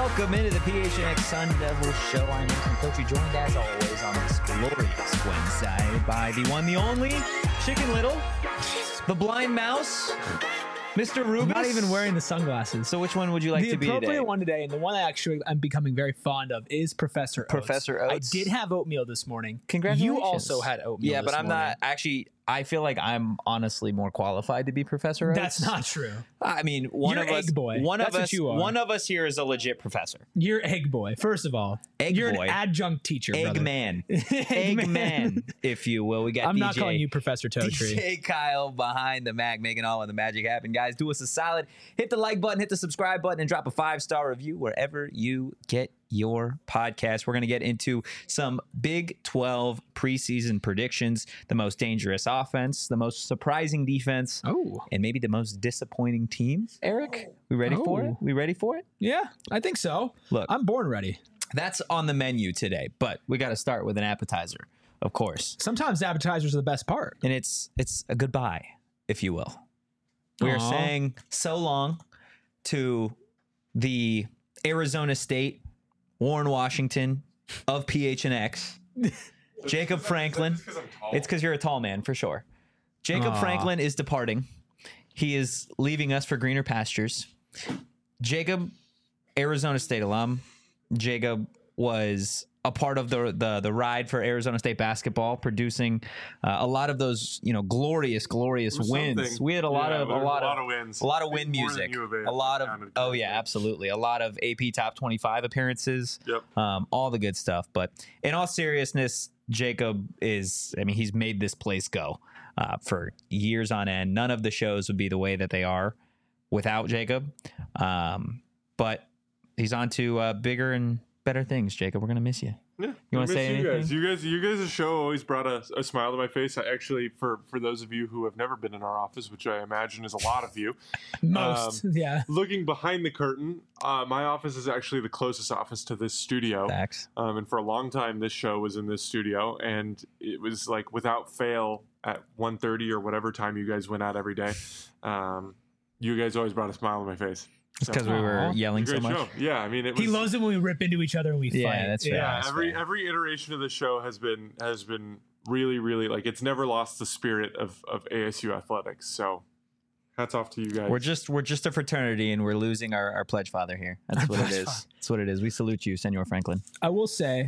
Welcome into the PHNX Sun Devil Show. I'm Ethan Coachy, joined as always on this glorious Wednesday by the one, the only, Chicken Little, the blind mouse, Mr. Rubis. I'm not even wearing the sunglasses. So which one would you like to be today? The appropriate one today, and the one I actually I'm becoming very fond of, is Professor Oats. Professor Oats. I did have oatmeal this morning. Congratulations. You also had oatmeal Yeah, this but I'm morning. not actually. I feel like I'm honestly more qualified to be Professor Oats. That's not true. I mean, one You're of us, egg boy. one That's of what us, you are. one of us here is a legit professor. You're egg boy, first of all. Egg You're boy. an adjunct teacher, brother. Eggman, Eggman, if you will. We got. I'm DJ, not calling you Professor Totri. DJ Kyle behind the Mac, making all of the magic happen. Guys, do us a solid. Hit the like button, hit the subscribe button, and drop a 5-star review wherever you get your podcast. We're going to get into some Big 12 preseason predictions, the most dangerous offense, the most surprising defense, and maybe the most disappointing team. Eric, we ready for it? We ready for it? Yeah, I think so. Look, I'm born ready. that's on the menu today, but we got to start with an appetizer, of course. Sometimes appetizers are the best part. And it's a goodbye, if you will. We are Aw. saying so long to the Arizona State, Warren Washington of PHNX, Jacob Franklin. It's because you're a tall man, for sure. Jacob Aw. Franklin is departing. He is leaving us for greener pastures. Jacob, Arizona State alum. Jacob was a part of the ride for Arizona State basketball, producing a lot of those glorious wins. We had a lot of wins, a lot of win music, a lot of absolutely, a lot of AP Top 25 appearances. Yep. All the good stuff. But in all seriousness, Jacob he's made this place go for years on end. None of the shows would be the way that they are without Jacob. But he's on to bigger and better things. Jacob, we're gonna miss you. Yeah, You want to say anything? You guys' show always brought a smile to my face. I actually, for those of you who have never been in our office, which I imagine is a lot of you, Most, yeah. looking behind the curtain, my office is actually the closest office to this studio. Facts. And for a long time, this show was in this studio, and it was like without fail at 1:30 or whatever time you guys went out every day. You guys always brought a smile on my face. It's because we were yelling so Great much. show. Yeah, I mean, it was. He loves it when we rip into each other and we fight. Yeah, that's fair. Yeah, That's every fair. iteration of the show has been really, really, like, it's never lost the spirit of ASU athletics. So hats off to you guys. We're just a fraternity, and we're losing our pledge father here. That's what it is. That's what it is. We salute you, Senor Franklin. I will say,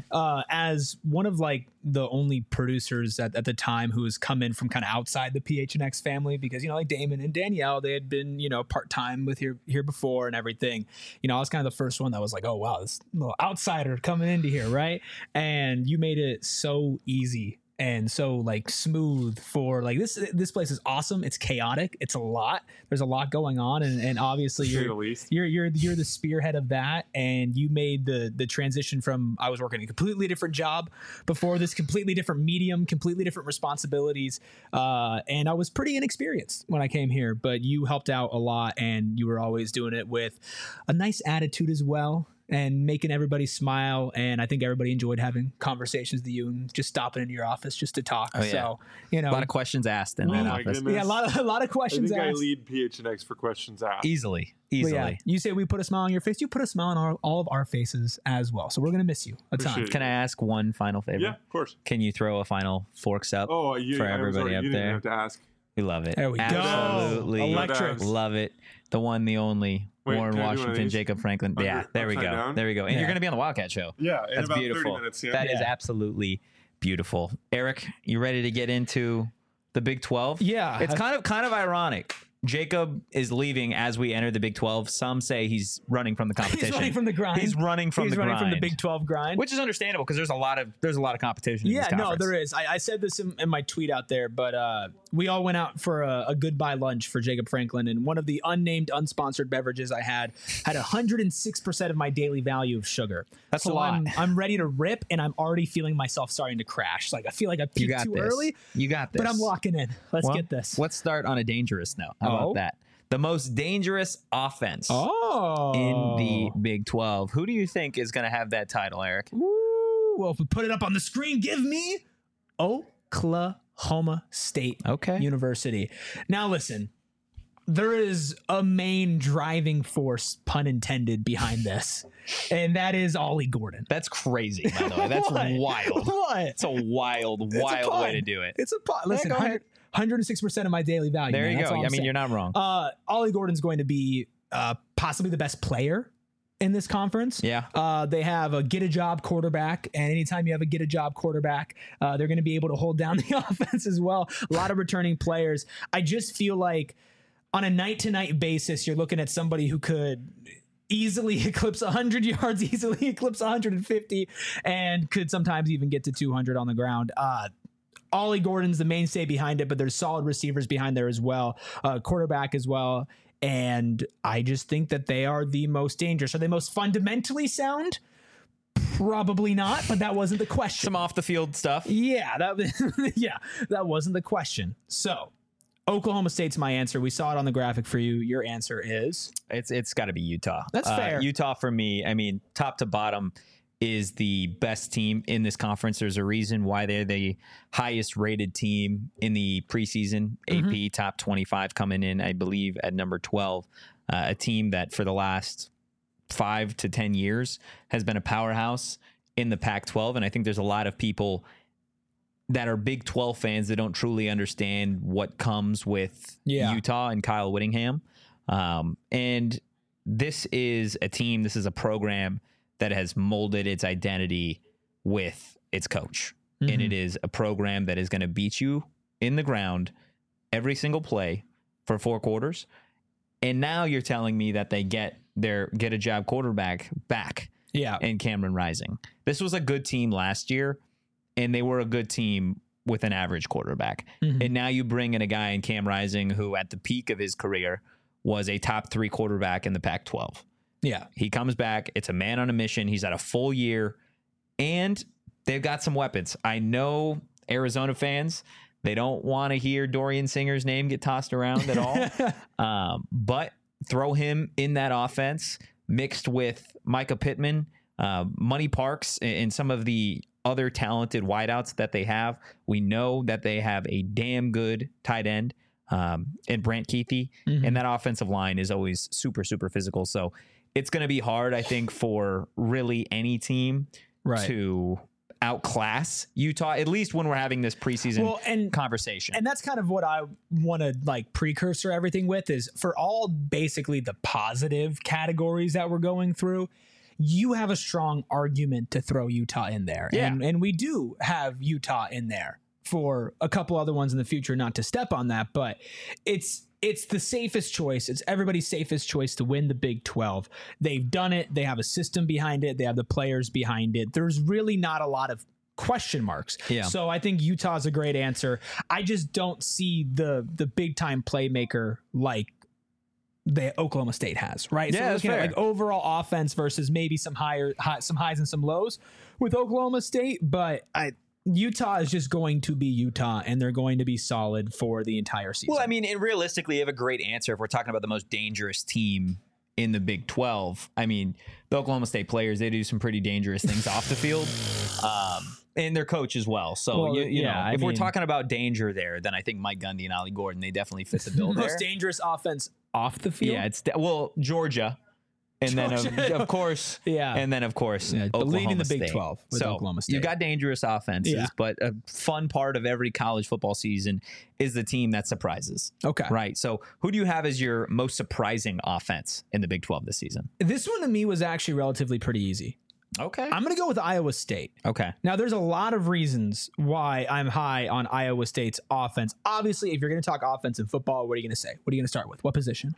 as one of like the only producers at the time who has come in from kind of outside the PHNX family, because like Damon and Danielle, they had been part time with here before and everything. I was kind of the first one that was like, oh wow, this little outsider coming into here, right? And you made it so easy and so like smooth for like this place is awesome. It's chaotic. It's a lot. There's a lot going on, and obviously To say the least. you're the spearhead of that, and you made the transition from I was working a completely different job before this, completely different medium, completely different responsibilities, and I was pretty inexperienced when I came here, but you helped out a lot, and you were always doing it with a nice attitude as well, and making everybody smile. And I think everybody enjoyed having conversations with you and just stopping into your office just to talk. Oh, yeah. So, A lot of questions asked in that my office. goodness. yeah, a lot of I questions think I asked. lead PHNX for questions asked. Easily. But yeah, you say we put a smile on your face. You put a smile on all of our faces as well. So we're going to miss you a ton. Appreciate it. Can I ask one final favor? Yeah, of course. Can you throw a final forks up Oh, for everybody up you didn't there? have to ask. We love it. There we go. Absolutely. Electric. Love it. The one, the only. Wait, Warren can I do one of Washington, these? Jacob Franklin. Yeah, there we go. upside down? There we go. And Yeah. you're going to be on the Wildcat Show. Yeah, in That's about beautiful. 30 minutes. Yeah. That is Yeah. absolutely beautiful. Eric, you ready to get into the Big 12? Yeah. It's kind of ironic. Jacob is leaving as we enter the Big 12. Some say he's running from the competition. He's running from the grind. He's running from the grind. Big 12 grind. Which is understandable because there's a lot of competition. in Yeah, this no, conference. there is. I said this in my tweet out there, but we all went out for a goodbye lunch for Jacob Franklin, and one of the unnamed, unsponsored beverages I had 106% of my daily value of sugar. That's a so lot. I'm ready to rip, and I'm already feeling myself starting to crash. Like I feel like I You peaked got too this. early, You got this. but I'm locking in. Let's Well, get this. Let's start on a dangerous note. How Oh. about that? The most dangerous offense Oh, in the Big 12. Who do you think is going to have that title, Eric? Ooh, well, if we put it up on the screen, give me Oklahoma State Okay. University. Now, listen, there is a main driving force, pun intended, behind this, and that is Ollie Gordon. That's crazy, by the way. That's wild. What? It's a wild way to do it. It's a pun. Listen, go ahead. 106% of my daily value. There man. you That's go. all I I'm mean, saying. you're not wrong. Ollie Gordon's going to be possibly the best player in this conference. Yeah. They have a get a job quarterback, and anytime you have a get a job quarterback, they're going to be able to hold down the offense as well. A lot of returning players. I just feel like on a night-to-night basis, you're looking at somebody who could easily eclipse 100 yards, easily eclipse 150, and could sometimes even get to 200 on the ground. Ollie Gordon's the mainstay behind it, but there's solid receivers behind there as well, quarterback as well. And I just think that they are the most dangerous. Are they most fundamentally sound? Probably not, but that wasn't the question. Some off the field stuff. Yeah, that wasn't the question. So Oklahoma State's my answer. We saw it on the graphic for you. Your answer is? It's got to be Utah. That's fair. Utah for me, I mean, top to bottom is the best team in this conference. There's a reason why they're the highest rated team in the preseason. AP top 25 coming in, I believe, at number 12. A team that for the last 5 to 10 years has been a powerhouse in the Pac-12. And I think there's a lot of people that are Big 12 fans that don't truly understand what comes with Utah and Kyle Whittingham. And this is a team, this is a program that has molded its identity with its coach. And it is a program that is going to beat you in the ground every single play for 4 quarters. And now you're telling me that they get their get a job quarterback back in Cameron Rising. This was a good team last year, and they were a good team with an average quarterback. And now you bring in a guy in Cam Rising who at the peak of his career was a top 3 quarterback in the Pac-12. Yeah. He comes back. It's a man on a mission. He's had a full year, and they've got some weapons. I know Arizona fans, they don't want to hear Dorian Singer's name get tossed around at all. But throw him in that offense mixed with Micah Pittman, Money Parks, and some of the other talented wideouts that they have. We know that they have a damn good tight end in Brant Keithy, and that offensive line is always super, super physical. So it's going to be hard, I think, for really any team to outclass Utah, at least when we're having this preseason conversation. And that's kind of what I want to like precursor everything with is for all basically the positive categories that we're going through, you have a strong argument to throw Utah in there. Yeah. And we do have Utah in there for a couple other ones in the future, not to step on that, but it's the safest choice. It's everybody's safest choice to win the Big 12. They've done it. They have a system behind it. They have the players behind it. There's really not a lot of question marks. Yeah. So I think Utah's a great answer. I just don't see the big time playmaker like the Oklahoma State has, right? Yeah, so we're looking at fair. like overall offense versus maybe some some highs and some lows with Oklahoma State, but Utah is just going to be Utah, and they're going to be solid for the entire season. Well, I mean, and realistically, you have a great answer if we're talking about the most dangerous team in the Big 12. I mean, the Oklahoma State players, they do some pretty dangerous things off the field, and their coach as well. So, you know, if we're talking about danger there, then I think Mike Gundy and Ollie Gordon, they definitely fit the bill there. Most dangerous offense off the field? Yeah, it's Georgia. And then, of course, but Oklahoma leading the Big State. 12 with Oklahoma State. You got dangerous offenses, but a fun part of every college football season is the team that surprises. Okay. Right. So who do you have as your most surprising offense in the Big 12 this season? This one to me was actually relatively pretty easy. Okay. I'm going to go with Iowa State. Okay. Now, there's a lot of reasons why I'm high on Iowa State's offense. Obviously, if you're going to talk offense in football, what are you going to say? What are you going to start with? What position?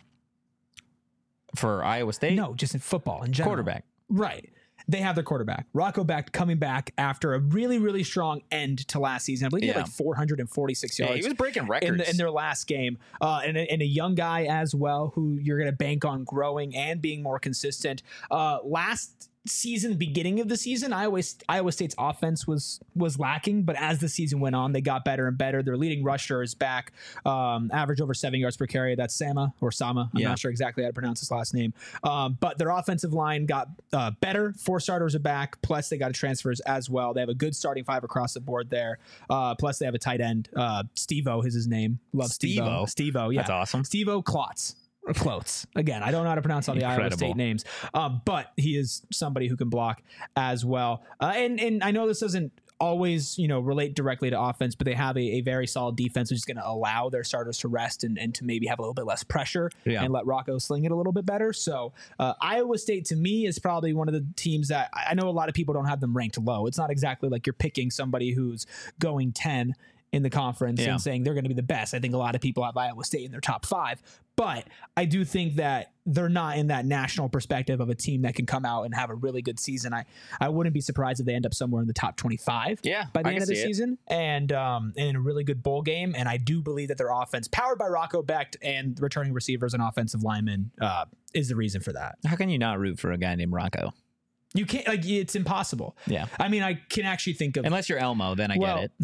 For Iowa State? No, just in football in general. Quarterback. Right. They have their quarterback. Rocco Becht coming back after a really, really strong end to last season. I believe he had like 446 yards. Yeah, he was breaking records. In their last game. And a young guy as well who you're going to bank on growing and being more consistent. Last season, beginning of the season, Iowa State's offense was lacking, but as the season went on, they got better and better. Their leading rusher is back, average over 7 yards per carry. That's Sama. I'm not sure exactly how to pronounce his last name. But their offensive line got better. 4 starters are back. Plus they got transfers as well. They have a good starting 5 across the board there. Plus they have a tight end. Steve-O is his name. Love Steve-O. Steve-O, yeah. That's awesome. Steve-O Klotz. Clothes. Again, I don't know how to pronounce all the Iowa State names, but he is somebody who can block as well. And I know this doesn't always, relate directly to offense, but they have a very solid defense, which is going to allow their starters to rest and to maybe have a little bit less pressure and let Rocco sling it a little bit better. So Iowa State, to me, is probably one of the teams that I know a lot of people don't have them ranked low. It's not exactly like you're picking somebody who's going 10 in the conference and saying they're going to be the best. I think a lot of people have Iowa State in their top 5, but I do think that they're not in that national perspective of a team that can come out and have a really good season. I wouldn't be surprised if they end up somewhere in the top 25 by the end of the season and in a really good bowl game. And I do believe that their offense, powered by Rocco Becht and returning receivers and offensive linemen, is the reason for that. How can you not root for a guy named Rocco? You can't, it's impossible. Yeah. I mean, I can actually think of, unless you're Elmo, then I get it.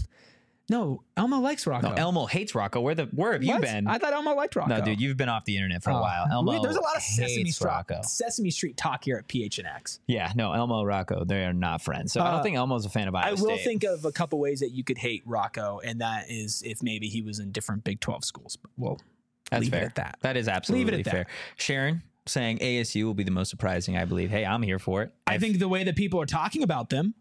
No, Elmo likes Rocco. No, Elmo hates Rocco. Where have you been? I thought Elmo liked Rocco. No, dude, you've been off the internet for a while. Elmo there's a lot of hates Rocco. Sesame Street talk here at PHNX. Yeah, no, Elmo, Rocco, they are not friends. So I don't think Elmo's a fan of Iowa State. I will think of a couple ways that you could hate Rocco, and that is if maybe he was in different Big 12 schools. But we'll leave it at that. That is absolutely leave it at fair. that. Sharon saying ASU will be the most surprising, I believe. Hey, I'm here for it. I think the way that people are talking about them,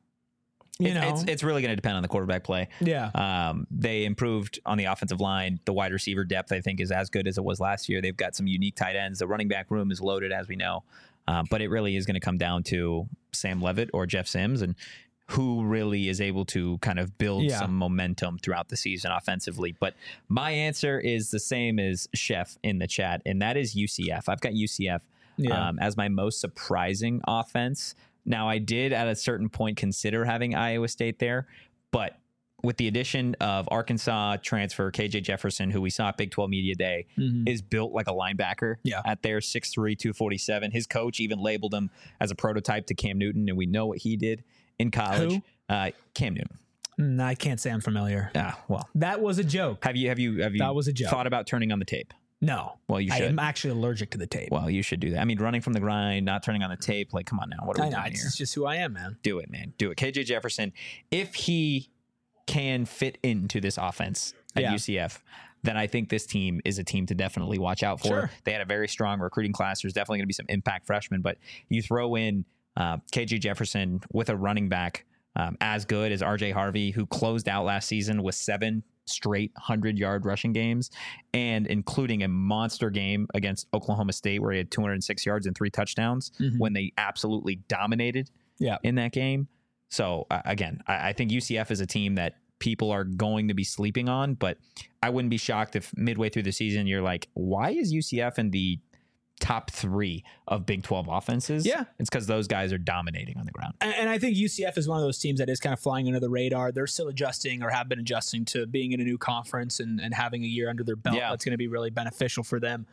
it's really going to depend on the quarterback play. Yeah. They improved on the offensive line. The wide receiver depth, I think, is as good as it was last year. They've got some unique tight ends. The running back room is loaded, as we know. But it really is going to come down to Sam Leavitt or Jeff Sims and who really is able to kind of build some momentum throughout the season offensively. But my answer is the same as Chef in the chat, and that is UCF. I've got UCF as my most surprising offense. Now, I did at a certain point consider having Iowa State there, but with the addition of Arkansas transfer KJ Jefferson, who we saw at Big 12 Media Day, is built like a linebacker at their 6'3", 247. His coach even labeled him as a prototype to Cam Newton, and we know what he did in college. Cam Newton. I can't say I'm familiar. Well, that was a joke. Have you that was a joke. Thought about turning on the tape? No. Well, you should. I'm actually allergic to the tape. Well, you should do that. I mean, running from the grind, not turning on the tape. Like, come on now. What are we doing here? It's just who I am, man. Do it, man. Do it. KJ Jefferson, if he can fit into this offense at UCF, then I think this team is a team to definitely watch out for. Sure. They had a very strong recruiting class. There's definitely going to be some impact freshmen, but you throw in KJ Jefferson with a running back as good as RJ Harvey, who closed out last season with 7 straight 100-yard rushing games, and including a monster game against Oklahoma State where he had 206 yards and 3 touchdowns when they absolutely dominated in that game. So again, I think UCF is a team that people are going to be sleeping on, but I wouldn't be shocked if midway through the season you're like, why is UCF in the top 3 of Big 12 offenses? Yeah. It's because those guys are dominating on the ground. And I think UCF is one of those teams that is kind of flying under the radar. They're still adjusting or have been adjusting to being in a new conference and having a year under their belt. That's going to be really beneficial for them.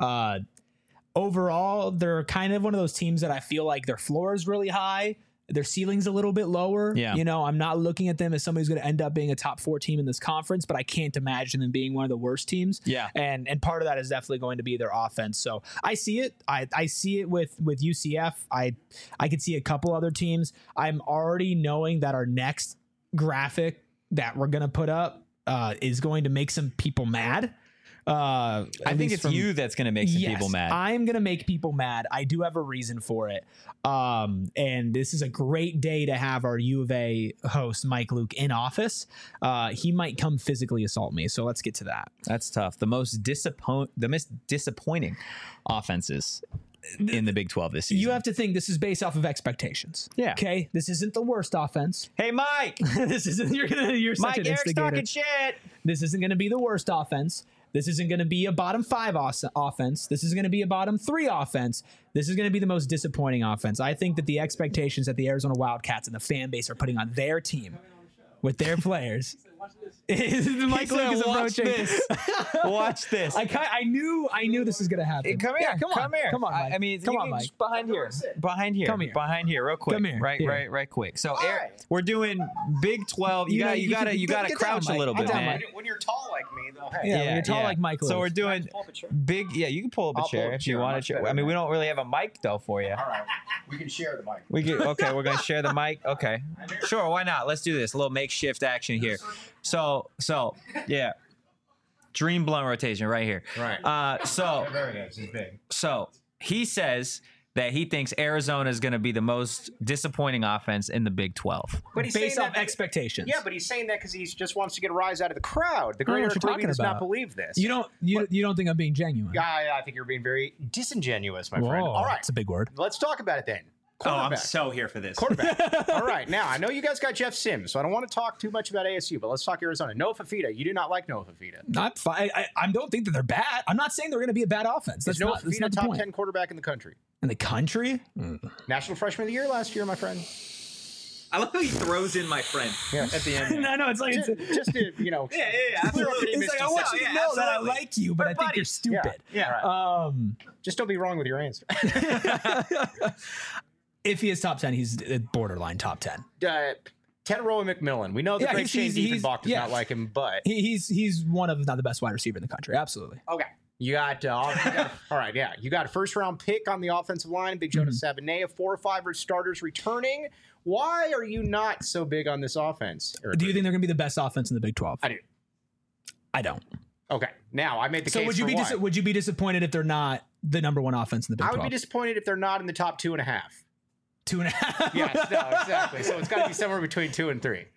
Overall, they're kind of one of those teams that I feel like their floor is really high. Their ceiling's a little bit lower. Yeah. I'm not looking at them as somebody who's going to end up being a top 4 team in this conference, but I can't imagine them being one of the worst teams. Yeah. And part of that is definitely going to be their offense. So I see it. I see it with UCF. I could see a couple other teams. I'm already knowing that our next graphic that we're going to put up is going to make some people mad. I think it's you that's going to make some people mad. I'm going to make people mad. I do have a reason for it. And this is a great day to have our U of A host, Mike Luke, in office. He might come physically assault me. So let's get to that. That's tough. The most disappointing offenses in the Big 12 this season. You have to think this is based off of expectations. Yeah. Okay. This isn't the worst offense. Hey, Mike. This isn't. You're such Mike, an Eric's instigator. talking shit. This isn't going to be the worst offense. This isn't going to be a bottom 5 offense. This is going to be a bottom 3 offense. This is going to be the most disappointing offense. I think that the expectations that the Arizona Wildcats and the fan base are putting on their team with their players Mike Luke is watch approaching. this. Watch this. I knew this was gonna happen. Come here. Yeah, come on, Mike. I mean, come you on, can Mike. just behind here. Come here. Behind here, real quick. Come here. Right, Here. right quick. So, right. we're doing Big 12. You gotta get down, crouch a Mike. little Get bit, down, man. Mike. When you're tall like me, though, hey. Yeah, when you're tall like Mike So Luke. we're doing Pull up a chair. big. Yeah, you can pull up a I'll pull chair up a if you chair. want Much to. better, I mean, we man. don't really have a mic though for you. All right. We can share the mic. We get okay. We're gonna share the mic. Okay, sure. Why not? Let's do this. A little makeshift action here. So yeah. Dream blunt rotation right here. Right. So Very good. This is big. So he says that he thinks Arizona is going to be the most disappointing offense in the Big 12. But he's Based saying off that expectations. Yeah, but he's saying that because he just wants to get a rise out of the crowd. The I don't know greater what you're Kirby talking does about. not believe this. You don't think I'm being genuine? I think you're being very disingenuous, my Whoa, friend. All right. that's a big word. Let's talk about it then. Oh, I'm Quarterback. so here for this. Quarterback. All right. Now, I know you guys got Jeff Sims, so I don't want to talk too much about ASU, but let's talk Arizona. Noah Fafita. You do not like Noah Fafita. Not fine. I don't think that they're bad. I'm not saying they're going to be a bad offense. That's Is Noah not, that's Fafita not the top point. 10 quarterback in the country? In the country? National Freshman of the Year last year, my friend. I love how he throws in my friend at the end. no, it's like Just to, you know. Yeah. clear up any it's like I want you to Yeah, know that I absolutely. like you, but We're I think you're buddies. stupid. Yeah. Just don't be wrong with your answer. If he is top 10, he's borderline top 10. Teteroa McMillan. We know the Yeah, great Shane he's- Diefenbach does yeah. not like him, but He's one of, if not the best wide receiver in the country. Absolutely. okay. You got, all right, yeah. You got a first-round pick on the offensive line, Big Jonas Sabanea, 4 or 5 starters returning. Why are you not so big on this offense, Eric? Do you think they're going to be the best offense in the Big 12? I do. I don't. Okay, now I made the So case would you for be why. would you be disappointed if they're not the number one offense in the Big I 12? would be disappointed if they're not in the top 2.5. 2.5. Yes, no, exactly. So it's got to be somewhere between 2 and 3.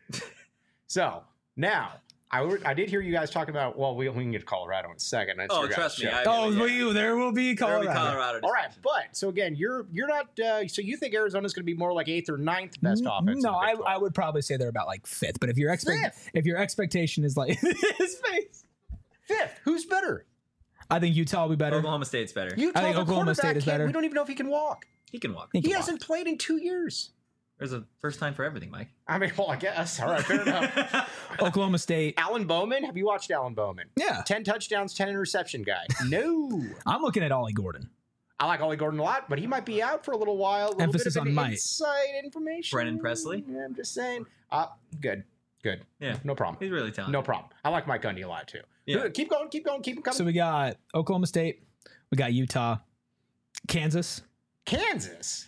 So now I did hear you guys talking about. Well, we can get to Colorado in a second. That's your guys' show. There will be Colorado. All right, but so again, you're not. So you think Arizona's going to be more like 8th or 9th best offense? in No, the Big 12? I would probably say they're about like 5th. But if your Fifth? if your expectation is like his face, 5th. Who's better? I think Utah will be better. Oklahoma State's better. Utah, I think the Oklahoma State quarterback is kid, better. We don't even know if he can walk. He can walk. He He can hasn't played in 2 years. There's a first time for everything, Mike. I mean, well, I guess. All right, fair enough. walk. Oklahoma State. Alan Bowman. Have you watched Alan Bowman? Yeah, 10 touchdowns, 10 interception guy. No. I'm looking at Ollie Gordon. I like Ollie Gordon a lot, but he might be out for a little while. A little Emphasis bit of on an might. inside information. Brennan Presley? Yeah, I'm just saying. Good. Yeah. No problem. He's really talented. No problem. I like Mike Gundy a lot, too. Yeah. Keep going. Keep him coming. So we got Oklahoma State. We got Utah, Kansas. Kansas.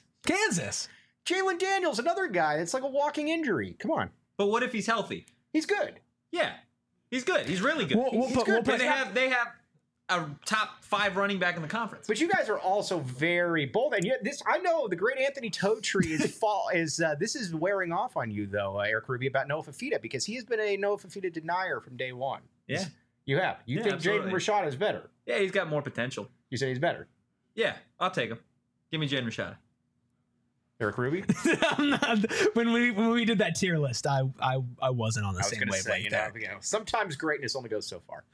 Jalen Daniels, another guy. It's like a walking injury. Come on. But what if he's healthy? He's good. Yeah. He's good. He's really good. We'll He's put- good, we'll but put- they have a top 5 running back in the conference. But you guys are also very bold, and yet this I know the great Anthony Totri is this is wearing off on you though, Eric Ruby, about Noah Fafita because he has been a Noah Fafita denier from day one. Yeah. You have. You Yeah, think absolutely. Jaden Rashada is better? Yeah, he's got more potential. You say he's better. Yeah, I'll take him. Give me Jaden Rashada. Eric Ruby. I'm not, when we did that tier list, I wasn't on the I was same going to say, wavelength you there. know, sometimes greatness only goes so far.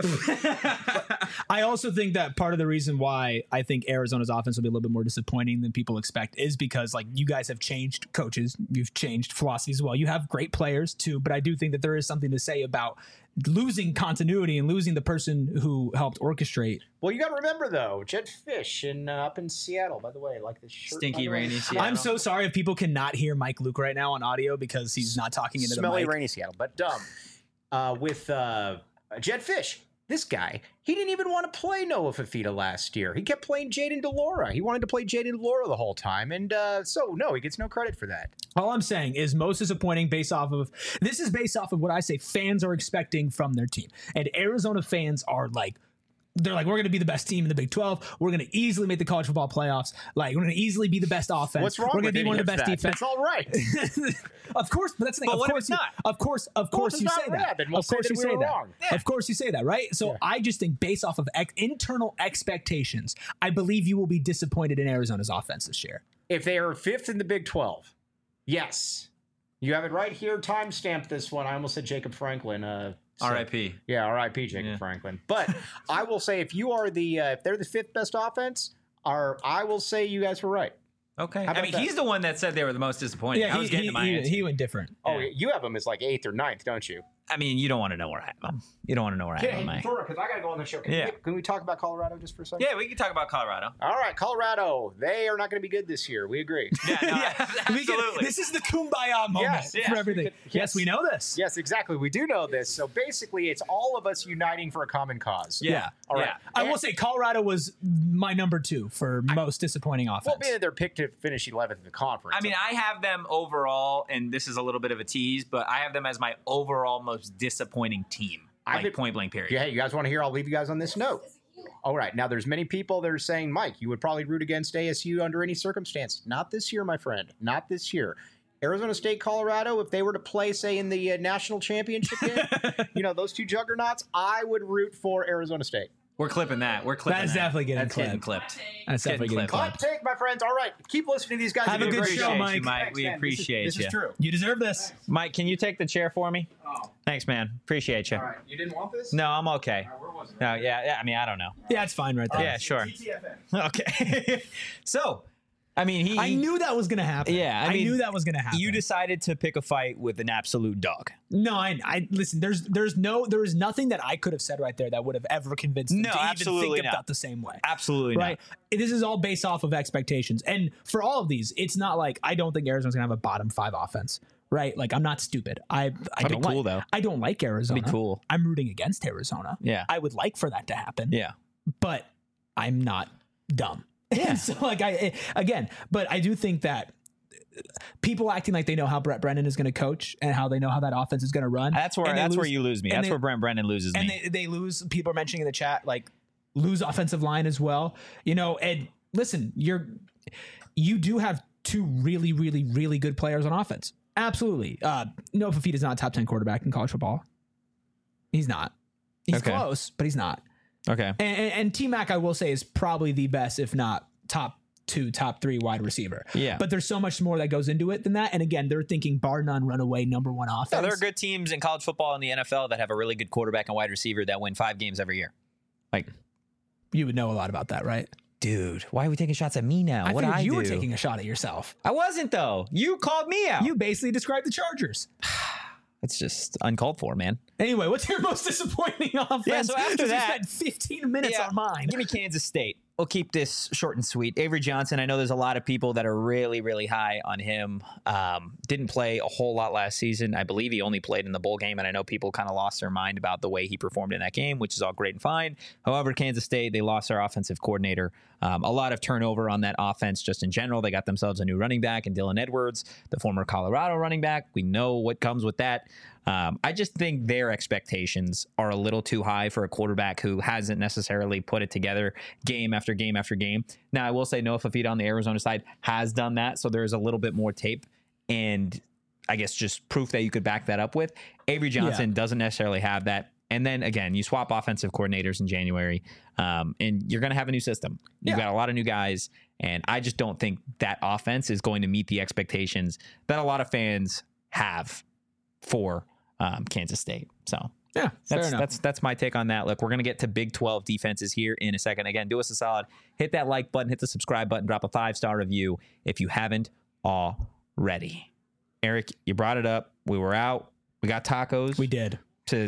I also think that part of the reason why I think Arizona's offense will be a little bit more disappointing than people expect is because like you guys have changed coaches, you've changed philosophy as well. You have great players too, but I do think that there is something to say about losing continuity and losing the person who helped orchestrate. Well, you got to remember though, Jed Fish up in Seattle. By the way, like this shirt. Stinky, by the way. rainy Seattle. I'm so sorry if people cannot hear Mike Luke right now on audio because he's not talking into the Smelly, mic. rainy Seattle. But with Jed Fish, this guy, he didn't even want to play Noah Fafita last year. He kept playing Jaden DeLaura. He wanted to play Jaden DeLaura the whole time, and so no, he gets no credit for that. All I'm saying is most disappointing based off of what I say fans are expecting from their team. And Arizona fans are like, they're like, we're going to be the best team in the Big 12. We're going to easily make the college football playoffs. Like, we're going to easily be the best offense. What's wrong We're with going to be one of the best that? defense. That's all right. Of course, but that's the thing. But Of what if course it's not? Of course it's you not say right, that. then we'll Of say course that you we say were that. wrong. Of course you say that, right? So Yeah. I just think based off of internal expectations, I believe you will be disappointed in Arizona's offense this year. If they are 5th in the Big 12, yes. You have it right here. Timestamp this one. I almost said Jacob Franklin. R.I.P. Yeah, R.I.P. Jacob Franklin. But I will say, if you are if they're the 5th best offense, I will say you guys were right. Okay. How I about mean, that? he's the one that said they were the most disappointing. I was getting to my answer. he went different. Oh, you have them as like 8th or 9th, don't you? I mean, you don't want to know where I have them. You don't want to know where I have them, Mike. because I got to go on the show. Can we talk about Colorado just for a second? Yeah, we can talk about Colorado. All right, Colorado. They are not going to be good this year. We agree. Yeah, no, We can- absolutely. this is the kumbaya moment Yes, for everything. Yes, we know this. Yes, exactly. We do know this. So basically, it's all of us uniting for a common cause. Yeah. All right. Yeah. I will say Colorado was my number 2 for most disappointing offense. Well, being that they're picked to finish 11th in the conference. I mean, I have them overall, and this is a little bit of a tease, but I have them as my overall most disappointing team. Like point blank period. Yeah, hey, you guys want to hear? I'll leave you guys on this note. All right. Now, there's many people that are saying, Mike, you would probably root against ASU under any circumstance. Not this year, my friend. Not this year. Arizona State, Colorado, if they were to play, say, in the national championship game, those two juggernauts, I would root for Arizona State. We're clipping that. We're clipping That is that. definitely getting That's clipped. getting clipped. That's definitely Getting getting clipped. Hot clipped. take, my friends. All right. Keep listening to these guys. Have a They do good great show, shit. Mike. Mike. Thanks, We man. appreciate This you. is true. You deserve this. Mike, can you take the chair for me? Oh. Thanks, man. Appreciate you. All right. You didn't want this? No, I'm okay. Where was it? No, yeah. I mean, I don't know. Yeah, it's fine right there. Yeah, sure. TTFN. Okay. So, I mean, I knew that was going to happen. Yeah, I mean, knew that was going to happen. you decided to pick a fight with an absolute dog. No, I listen. There is nothing that I could have said right there that would have ever convinced them No, to even absolutely think not. about the same way. Absolutely Right. This is all based off of expectations, and for all of these, it's not like I don't think Arizona's gonna have a bottom 5 offense. Right. Like I'm not stupid. I That'd don't be cool, like, though. I don't like Arizona. That'd be cool. I'm rooting against Arizona. Yeah. I would like for that to happen. Yeah. But I'm not dumb. Yeah. So like but I do think that people acting like they know how Brett Brennan is going to coach and how they know how that offense is going to run. That's where you lose me. and That's they- where Brent Brennan loses and me. they lose. People are mentioning in the chat like lose offensive line as well. And listen, you do have 2 really, really, really good players on offense. Absolutely. Noah Fafita is not a top 10 quarterback in college football. He's not. He's Okay. close, but he's not. Okay. And T-Mac, I will say, is probably the best, if not top 2, top 3 wide receiver. Yeah. But there's so much more that goes into it than that. And again, they're thinking bar none, runaway number 1 offense. Yeah, there are good teams in college football and the NFL that have a really good quarterback and wide receiver that win 5 games every year. Like, You would know a lot about that, right? dude, why are we taking shots at me now? I What figured I you do? were taking a shot at yourself. I wasn't though. You called me out. You basically described the Chargers. It's just uncalled for, man. Anyway, what's your most disappointing offense? Yeah, so after 'Cause that- we spent 15 minutes on mine. Give me Kansas State. We'll keep this short and sweet. Avery Johnson, I know there's a lot of people that are really, really high on him. Didn't play a whole lot last season. I believe he only played in the bowl game, and I know people kind of lost their mind about the way he performed in that game, which is all great and fine. However, Kansas State, they lost their offensive coordinator. A lot of turnover on that offense just in general. They got themselves a new running back in Dylan Edwards, the former Colorado running back. We know what comes with that. I just think their expectations are a little too high for a quarterback who hasn't necessarily put it together game after game after game. Now, I will say Noah Fafita on the Arizona side has done that, so there's a little bit more tape and I guess just proof that you could back that up with. Avery Johnson doesn't necessarily have that. And then again, you swap offensive coordinators in January, and you're going to have a new system. You've got a lot of new guys, and I just don't think that offense is going to meet the expectations that a lot of fans have for Kansas State. So Yeah, fair enough. that's my take on that. Look, we're going to get to Big 12 defenses here in a second. Again, do us a solid. Hit that like button, hit the subscribe button, drop a 5-star review if you haven't already. Eric, you brought it up. We were out. We got tacos. We did. To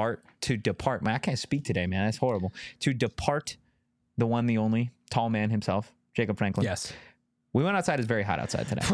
depart. Man, I can't speak today, man. That's horrible. To depart the one, the only tall man himself, Jacob Franklin. Yes. We went outside. It's very hot outside today.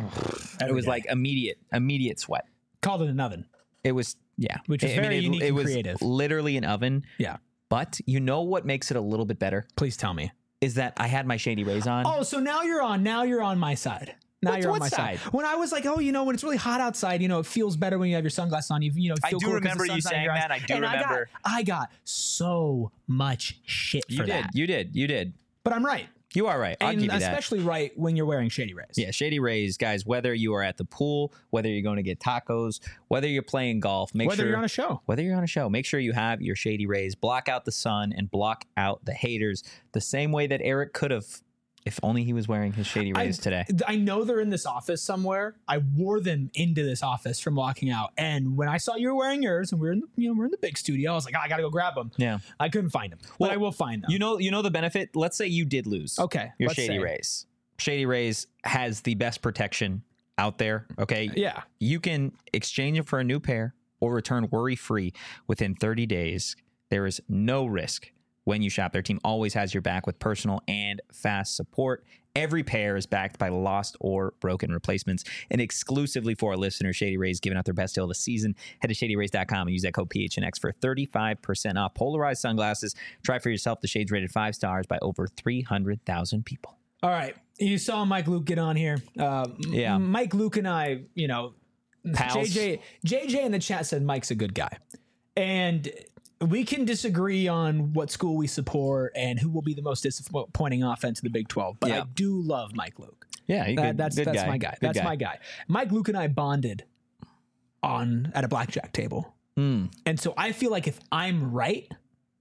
It was like immediate sweat. Called it an oven. It was, yeah. Which is very unique and was creative. Literally an oven. Yeah. But you know what makes it a little bit better Please tell me. is that I had my Shady Rays on. Oh, so now you're on my side. Now What- you're on what my side. side? When I was like, oh, when it's really hot outside, it feels better when you have your sunglasses on. You feel I do cooler 'cause remember the you sun's on saying your eyes. that. I do And remember. I got so much shit for that. You did. But I'm right. You are right. I'll And give you that. especially right when you're wearing Shady Rays. Yeah, Shady Rays, guys, whether you are at the pool, whether you're going to get tacos, whether you're playing golf, Whether you're on a show. Whether you're on a show, make sure you have your Shady Rays. Block out the sun and block out the haters the same way that Eric could have if only he was wearing his Shady Rays today. I know they're in this office somewhere. I wore them into this office from walking out. And when I saw you were wearing yours and we're in the big studio, I was like, I got to go grab them. Yeah. I couldn't find them. Well, but I will find them. You know the benefit? Let's say you did lose. Okay, Your let's Shady say. Rays. Shady Rays has the best protection out there, okay? Yeah. You can exchange it for a new pair or return worry-free within 30 days. There is no risk when you shop. Their team always has your back with personal and fast support. Every pair is backed by lost or broken replacements. And exclusively for our listeners, Shady Rays giving out their best deal of the season. Head to shadyrays.com and use that code PHNX for 35% off polarized sunglasses. Try for yourself. The shades rated 5 stars by over 300,000 people. All right. You saw Mike Luke get on here. Yeah. Mike Luke and I, Pals. JJ in the chat said Mike's a good guy. And we can disagree on what school we support and who will be the most disappointing offense in the Big 12. But I do love Mike Luke. Yeah, that's my guy. That's my guy. Mike Luke and I bonded at a blackjack table. And so I feel like if I'm right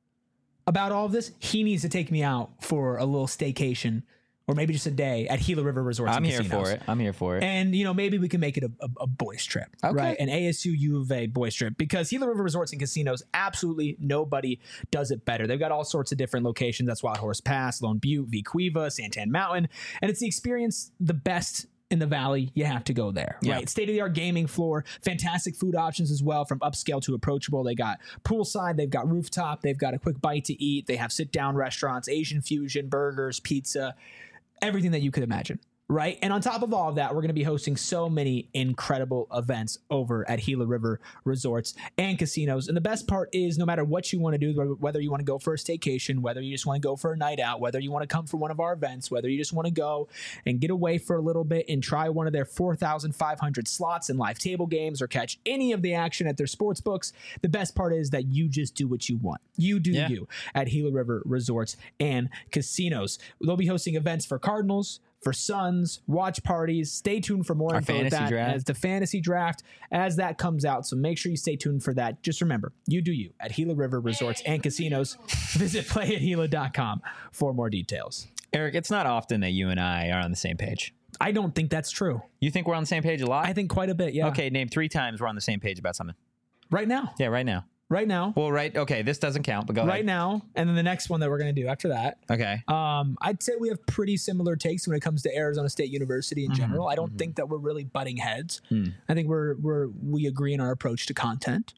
about all of this, he needs to take me out for a little staycation or maybe just a day at Gila River Resorts. I'm and here Casinos. for it. I'm here for it. And, maybe we can make it a boys trip, right? An ASU U of A boys trip, because Gila River Resorts and Casinos, absolutely nobody does it better. They've got all sorts of different locations. That's Wild Horse Pass, Lone Butte, Vequiva, Santan Mountain. And it's the experience, the best in the valley. You have to go there, right? State-of-the-art gaming floor, fantastic food options as well, from upscale to approachable. They got poolside, they've got rooftop, they've got a quick bite to eat. They have sit-down restaurants, Asian fusion, burgers, pizza, everything that you could imagine, right? And on top of all of that, we're going to be hosting so many incredible events over at Gila River Resorts and Casinos. And the best part is, no matter what you want to do, whether you want to go for a staycation, whether you just want to go for a night out, whether you want to come for one of our events, whether you just want to go and get away for a little bit and try one of their 4,500 slots and live table games, or catch any of the action at their sports books, the best part is that you just do what you want. You do you at Gila River Resorts and Casinos. They'll be hosting events for Cardinals, for Suns, watch parties. Stay tuned for more info with that as the fantasy draft as that comes out. So make sure you stay tuned for that. Just remember, you do you at Gila River Resorts and Casinos. Visit playathila.com for more details. Eric, it's not often that you and I are on the same page. I don't think that's true. You think we're on the same page a lot? I think quite a bit, yeah. Okay, name 3 times we're on the same page about something. Right now. Yeah, right now. Right now. Well, okay, this doesn't count, but go ahead. Right now, and then the next one that we're going to do after that. Okay. I'd say we have pretty similar takes when it comes to Arizona State University in general. I don't think that we're really butting heads. I think we agree in our approach to content.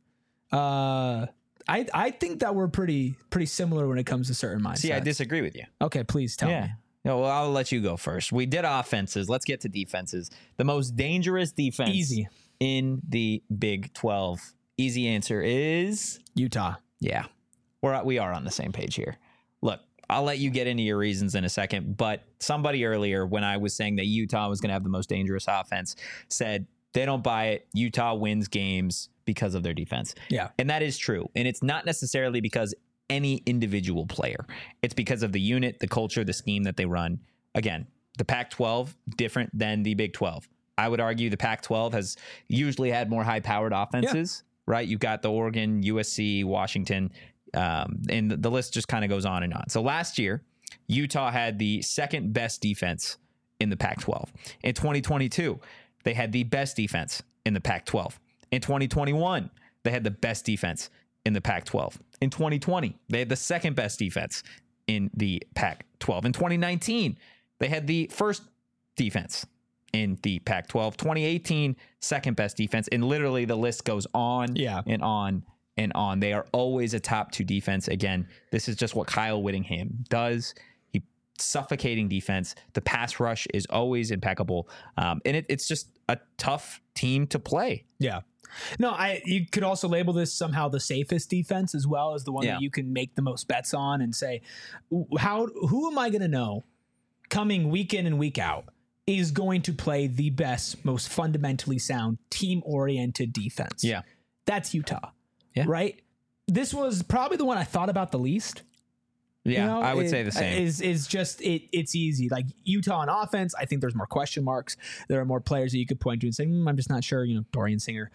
I think that we're pretty similar when it comes to certain mindsets. See, I disagree with you. Okay, please tell me. No, well, I'll let you go first. We did offenses. Let's get to defenses. The most dangerous defense in the Big 12. Easy answer is Utah. Yeah, we are on the same page here. Look, I'll let you get into your reasons in a second, but somebody earlier, when I was saying that Utah was going to have the most dangerous offense, said they don't buy it. Utah wins games because of their defense. Yeah. And that is true. And it's not necessarily because any individual player. It's because of the unit, the culture, the scheme that they run. Again, the Pac-12, different than the Big 12. I would argue the Pac-12 has usually had more high-powered offenses. Right? You've got the Oregon, USC, Washington, and the list just kind of goes on and on. So last year, Utah had the second best defense in the Pac-12. In 2022, they had the best defense in the Pac-12. In 2021, they had the best defense in the Pac-12. In 2020, they had the second best defense in the Pac-12. In 2019, they had the first defense in the Pac-12. 2018, second best defense. And literally the list goes on and on and on. They are always a top 2 defense. Again, this is just what Kyle Whittingham does. He suffocating defense. The pass rush is always impeccable. And it's just a tough team to play. Yeah. No, you could also label this somehow the safest defense as well, as the one that you can make the most bets on and say, who am I going to know coming week in and week out is going to play the best, most fundamentally sound, team-oriented defense? Yeah. That's Utah. Yeah. Right? This was probably the one I thought about the least. Yeah, I would say the same. Is just it's easy. Like Utah on offense, I think there's more question marks. There are more players that you could point to and say, I'm just not sure. Dorian Singer.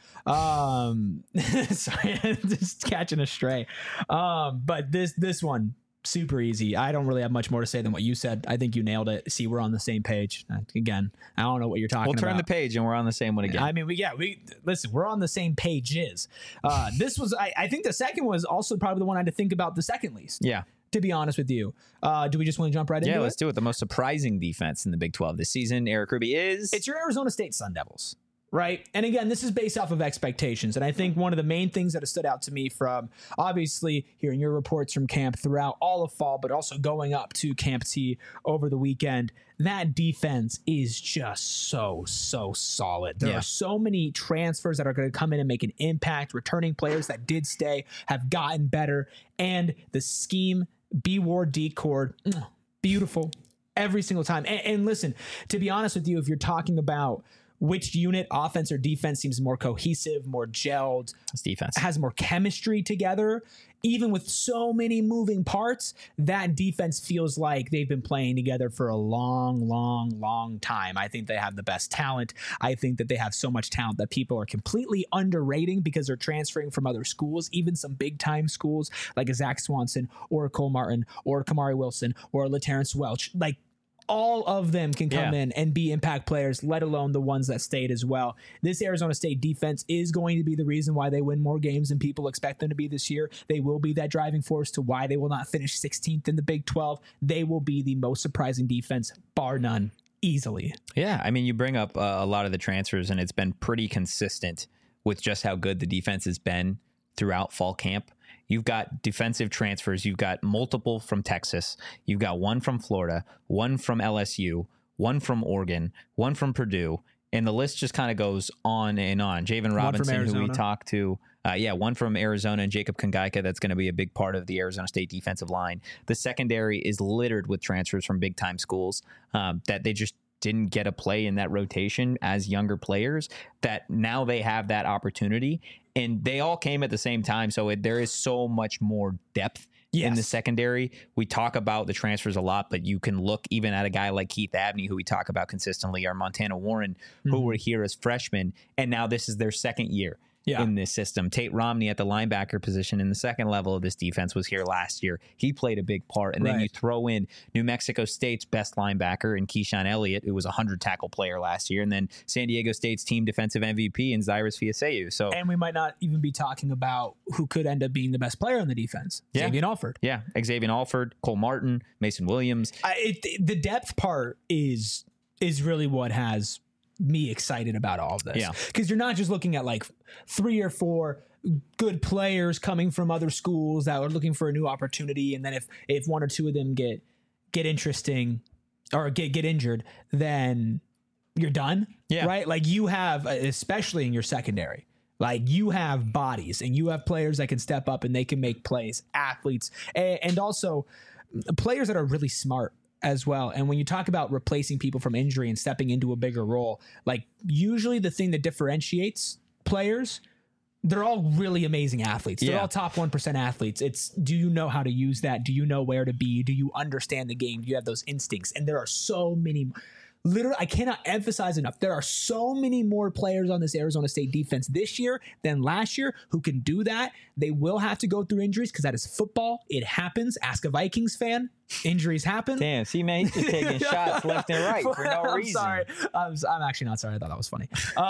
Sorry, just catching a stray. But this one, super easy. I don't really have much more to say than what you said. I think you nailed it. See, we're on the same page. Again, I don't know what you're talking about. We'll turn the page and we're on the same one again. I mean, listen, we're on the same pages. This was, I think the second was also probably the one I had to think about the second least. Yeah. To be honest with you. Do we just want to jump right into it? Yeah, let's do it. The most surprising defense in the Big 12 this season, Eric Ruby, is... It's your Arizona State Sun Devils. right? And again, this is based off of expectations. And I think one of the main things that has stood out to me from obviously hearing your reports from camp throughout all of fall, but also going up to Camp T over the weekend, that defense is just so solid. There are so many transfers that are going to come in and make an impact. Returning players that did stay have gotten better. And the scheme, B Ward, D Cord, beautiful every single time. And listen, to be honest with you, if you're talking about which unit, offense or defense, seems more cohesive, more gelled, It's defense. has more chemistry together, even with so many moving parts, that defense feels like they've been playing together for a long time. I think they have the best talent. I think that they have so much talent that people are completely underrating because they're transferring from other schools, even some big time schools like a Zach Swanson or a Cole Martin or a Kamari Wilson or a LaTerrence Welch. Like, all of them can come in and be impact players, let alone the ones that stayed as well. This Arizona State defense is going to be the reason why they win more games than people expect them to be this year. They will be that driving force to why they will not finish 16th in the Big 12. They will be the most surprising defense, bar none, easily. Yeah, I mean, you bring up a lot of the transfers, and it's been pretty consistent with just how good the defense has been throughout fall camp. You've got defensive transfers. You've got multiple from Texas. You've got one from Florida, one from LSU, one from Oregon, one from Purdue. And the list just kind of goes on and on. Javen Robinson, who we talked to. One from Arizona, and Jacob Kongaika. That's going to be a big part of the Arizona State defensive line. The secondary is littered with transfers from big-time schools that they just didn't get a play in that rotation as younger players, that now they have that opportunity. And they all came at the same time, so there is so much more depth in the secondary. We talk about the transfers a lot, but you can look even at a guy like Keith Abney, who we talk about consistently, or Montana Warren, who were here as freshmen, and now this is their second year in this system. Tate Romney at the linebacker position in the second level of this defense was here last year. He played a big part. And then you throw in New Mexico State's best linebacker in Keyshawn Elliott, who was a 100-tackle player last year, and then San Diego State's team defensive MVP in Cyrus Fiaseu. So, and we might not even be talking about who could end up being the best player on the defense. Xavier Alford. Yeah, Xavier Alford, Cole Martin, Mason Williams. The depth part is really what has me excited about all of this. Yeah. Because you're not just looking at like 3 or 4 good players coming from other schools that are looking for a new opportunity. And then if 1 or 2 of them get interesting or get injured, then you're done. Yeah. Right. Like you have, especially in your secondary, like you have bodies and you have players that can step up and they can make plays, athletes, and also players that are really smart as well. And when you talk about replacing people from injury and stepping into a bigger role, like usually the thing that differentiates players, they're all really amazing athletes. They're all top 1% athletes. It's, do you know how to use that? Do you know where to be? Do you understand the game? Do you have those instincts? And there are so many. Literally, I cannot emphasize enough. There are so many more players on this Arizona State defense this year than last year who can do that. They will have to go through injuries because that is football. It happens. Ask a Vikings fan. Injuries happen. Damn, see, man, he's just taking shots left and right for no reason. I'm sorry. I'm actually not sorry. I thought that was funny.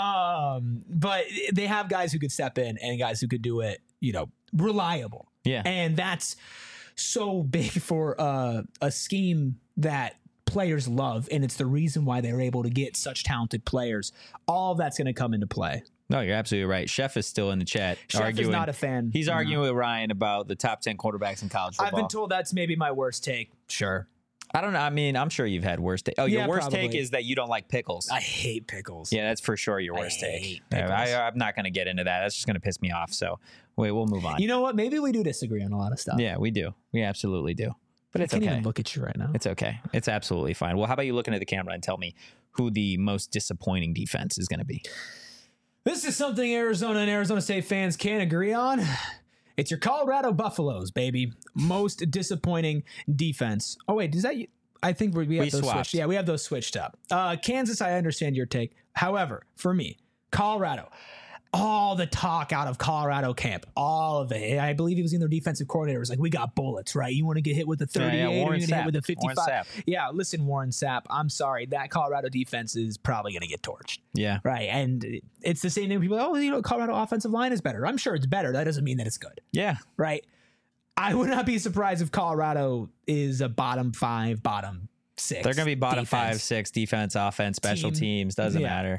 But they have guys who could step in and guys who could do it, reliable. Yeah. And that's so big for a scheme that players love, and it's the reason why they're able to get such talented players. All of that's going to come into play. No, you're absolutely right. Chef is still in the chat. Chef is not a fan. He's arguing with Ryan about the top 10 quarterbacks in college football. I've been told that's maybe my worst take. Sure. I don't know. I mean, I'm sure you've had worse take. Oh, your worst take is that you don't like pickles. I hate pickles. Yeah, that's for sure your worst take. I'm not going to get into that. That's just going to piss me off. So we'll move on. You know what? Maybe we do disagree on a lot of stuff. Yeah, we do. We absolutely do. But it's I can't okay. even look at you right now. It's okay. It's absolutely fine. Well, how about you looking at the camera and tell me who the most disappointing defense is going to be? This is something Arizona and Arizona State fans can't agree on. It's your Colorado Buffaloes, baby. Most disappointing defense. Oh, wait, does that... I think we have those swapped. switched. Yeah, we have those switched up. Kansas, I understand your take. However, for me, Colorado... all the talk out of Colorado camp, all of it. I believe he was in their defensive coordinator. It was like, we got bullets, right? You want to get hit with a 38 or you want to get hit with a 55? Yeah, listen, Warren Sapp, I'm sorry. That Colorado defense is probably going to get torched. Yeah. Right. And it's the same thing. People are, Colorado offensive line is better. I'm sure it's better. That doesn't mean that it's good. Yeah. Right. I would not be surprised if Colorado is a bottom 5, bottom 6. They're going to be bottom defense. 5, 6 defense, offense, special teams. Doesn't matter.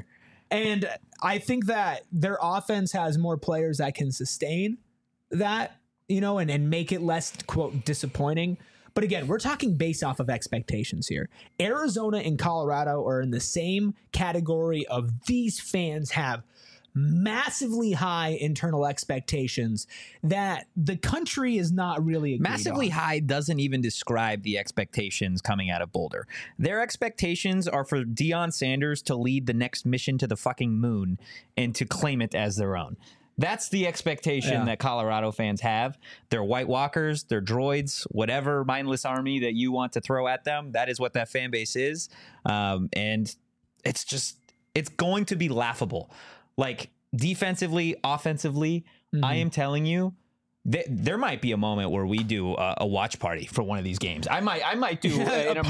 And I think that their offense has more players that can sustain that, and make it less, quote, disappointing. But again, we're talking based off of expectations here. Arizona and Colorado are in the same category of these fans have massively high internal expectations that the country is not really agreed Massively on. high doesn't even describe the expectations coming out of Boulder. Their expectations are for Deion Sanders to lead the next mission to the fucking moon and to claim it as their own. That's the expectation that Colorado fans have. They're White Walkers, they're droids, whatever mindless army that you want to throw at them. That is what that fan base is. And it's going to be laughable. Like defensively, offensively, I am telling you, there might be a moment where we do a watch party for one of these games. I might do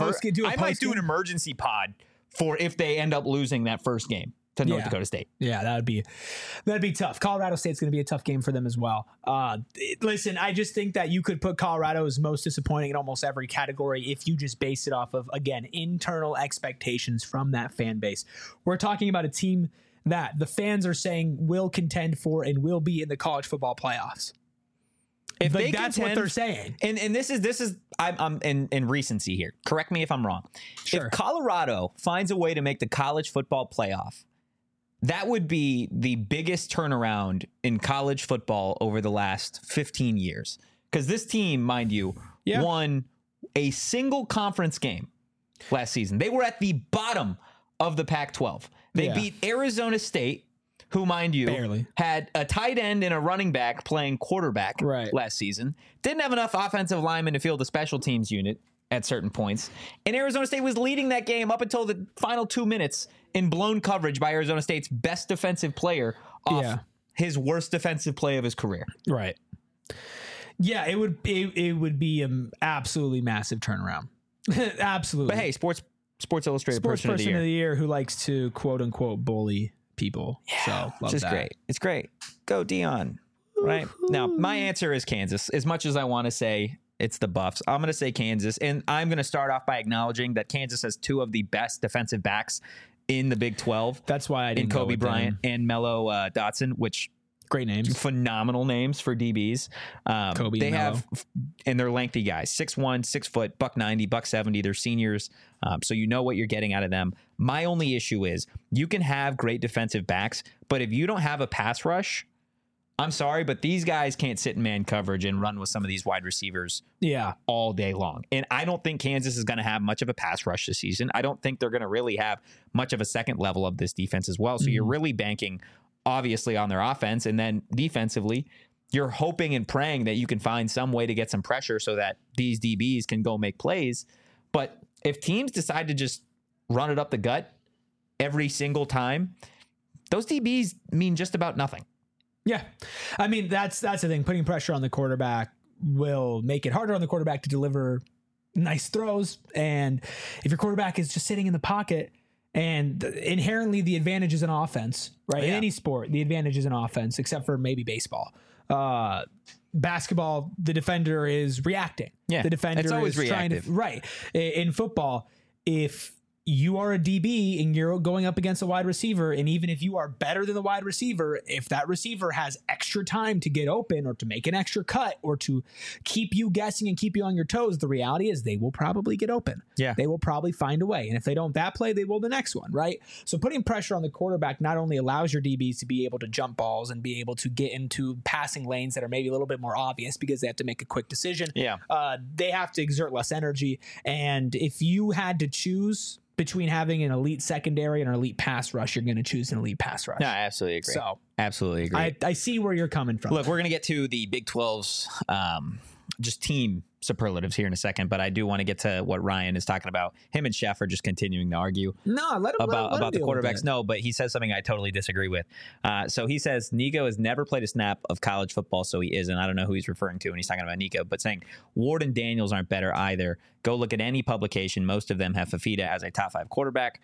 an emergency pod for if they end up losing that first game to North Dakota State. Yeah, that'd be tough. Colorado State's going to be a tough game for them as well. Listen, I just think that you could put Colorado as most disappointing in almost every category if you just base it off of, again, internal expectations from that fan base. We're talking about a team that the fans are saying will contend for and will be in the college football playoffs. If Like, they that's contend, what they're saying. And this is I'm in recency here. Correct me if I'm wrong. Sure. If Colorado finds a way to make the college football playoff, that would be the biggest turnaround in college football over the last 15 years. Because this team, mind you, won a single conference game last season. They were at the bottom of the Pac-12. They beat Arizona State, who, mind you, Barely. had a tight end and a running back playing quarterback last season. Didn't have enough offensive linemen to field the special teams unit at certain points. And Arizona State was leading that game up until the final 2 minutes in blown coverage by Arizona State's best defensive player off his worst defensive play of his career. Right. Yeah, it would be an absolutely massive turnaround. Absolutely. But hey, Sports Illustrated Person of the Year. Who likes to quote unquote bully people. So love Just that. great. It's great. Go Deion. Right? Now, my answer is Kansas. As much as I want to say it's the Buffs, I'm going to say Kansas. And I'm going to start off by acknowledging that Kansas has two of the best defensive backs in the Big 12. That's why I didn't in go Kobe with Bryant them. and Mello Dotson, which Great names. phenomenal names for DBs. Kobe they and have, and they're lengthy guys, 6'1", 6 foot, $190, $170. They're seniors, so you know what you're getting out of them. My only issue is you can have great defensive backs, but if you don't have a pass rush, I'm sorry, but these guys can't sit in man coverage and run with some of these wide receivers all day long. And I don't think Kansas is going to have much of a pass rush this season. I don't think they're going to really have much of a second level of this defense as well. So you're really banking obviously on their offense, and then defensively, you're hoping and praying that you can find some way to get some pressure so that these DBs can go make plays. But if teams decide to just run it up the gut every single time, those DBs mean just about nothing. Yeah. I mean, that's the thing. Putting pressure on the quarterback will make it harder on the quarterback to deliver nice throws. And if your quarterback is just sitting in the pocket, and inherently the advantage is in offense, right? In any sport, the advantage is in offense, except for maybe baseball. Basketball, the defender is reacting. Yeah, the defender it's always is trying to reactive. right. In football, if you are a DB and you're going up against a wide receiver, and even if you are better than the wide receiver, if that receiver has extra time to get open or to make an extra cut or to keep you guessing and keep you on your toes, the reality is they will probably get open. Yeah. They will probably find a way. And if they don't that play, they will the next one, right? So putting pressure on the quarterback not only allows your DBs to be able to jump balls and be able to get into passing lanes that are maybe a little bit more obvious because they have to make a quick decision. Yeah. They have to exert less energy. And if you had to choose between having an elite secondary and an elite pass rush, you're going to choose an elite pass rush. No, I absolutely agree. So absolutely agree. I see where you're coming from. Look, we're going to get to the Big 12's just team superlatives here in a second, but I do want to get to what Ryan is talking about. Him and Chef are just continuing to argue let him about the deal with quarterbacks. it. No, but he says something I totally disagree with. So he says Nico has never played a snap of college football, so he isn't. I don't know who he's referring to when he's talking about Nico, but saying Ward and Daniels aren't better either. Go look at any publication. Most of them have Fafita as a top 5 quarterback.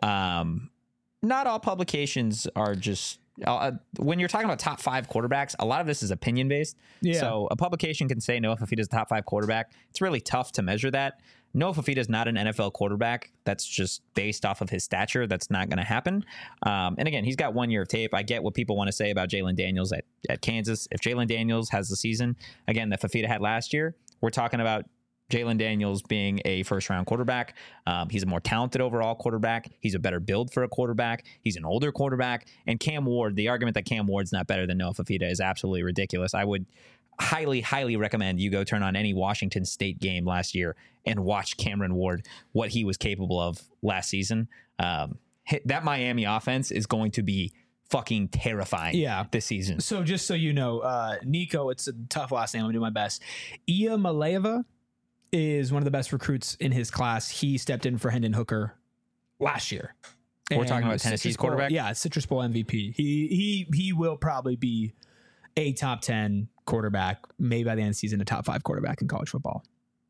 Not all publications are just when you're talking about top 5 quarterbacks, a lot of this is opinion based. Yeah. So a publication can say Noah Fafita's a top 5 quarterback. It's really tough to measure that. Noah Fafita's not an NFL quarterback. That's just based off of his stature. That's not going to happen. And again, he's got 1 year of tape. I get what people want to say about Jalen Daniels at Kansas. If Jalen Daniels has the season, again, that Fafita had last year, we're talking about Jalen Daniels being a first-round quarterback. He's a more talented overall quarterback. He's a better build for a quarterback. He's an older quarterback. And Cam Ward, the argument that Cam Ward's not better than Noah Fafita is absolutely ridiculous. I would highly, highly recommend you go turn on any Washington State game last year and watch Cameron Ward, what he was capable of last season. That Miami offense is going to be fucking terrifying this season. So just so you know, Nico, it's a tough last name. I'm going to do my best. Ia Maleva is one of the best recruits in his class. He stepped in for Hendon Hooker last year. We're talking about Tennessee's quarterback? Yeah, Citrus Bowl MVP. He will probably be a top 10 quarterback, maybe by the end of the season, a top 5 quarterback in college football.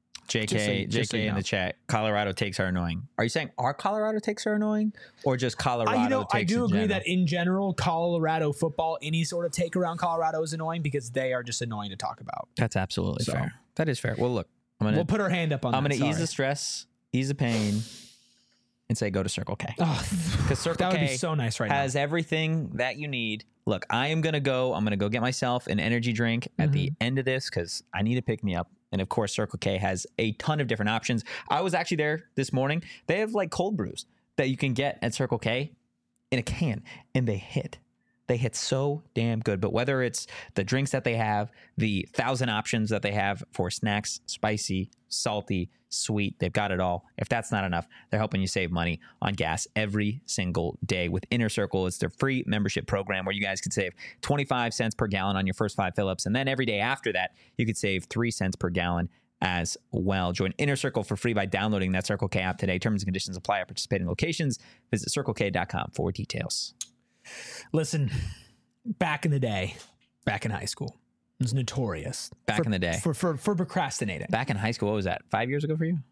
JK in the chat, Colorado takes are annoying. Are you saying our Colorado takes are annoying, or just Colorado takes I do in agree general? that in general, Colorado football, any sort of take around Colorado is annoying because they are just annoying to talk about. That's absolutely fair. That is fair. Well, look, We'll put our hand up on I'm that. going to ease the stress, ease the pain, and say go to Circle K. Because Circle that would K be so nice right has everything that you need. Look, I'm going to go get myself an energy drink at the end of this because I need to pick me up. And of course, Circle K has a ton of different options. I was actually there this morning. They have like cold brews that you can get at Circle K in a can, and they hit. They hit so damn good. But whether it's the drinks that they have, the 1,000 options that they have for snacks, spicy, salty, sweet, they've got it all. If that's not enough, they're helping you save money on gas every single day with Inner Circle. It's their free membership program where you guys can save 25 cents per gallon on your first 5 fill-ups. And then every day after that, you could save 3 cents per gallon as well. Join Inner Circle for free by downloading that Circle K app today. Terms and conditions apply at participating locations. Visit circlek.com for details. Listen, back in the day, back in high school, it was notorious. In the day. For procrastinating. Back in high school, what was that? 5 years ago for you?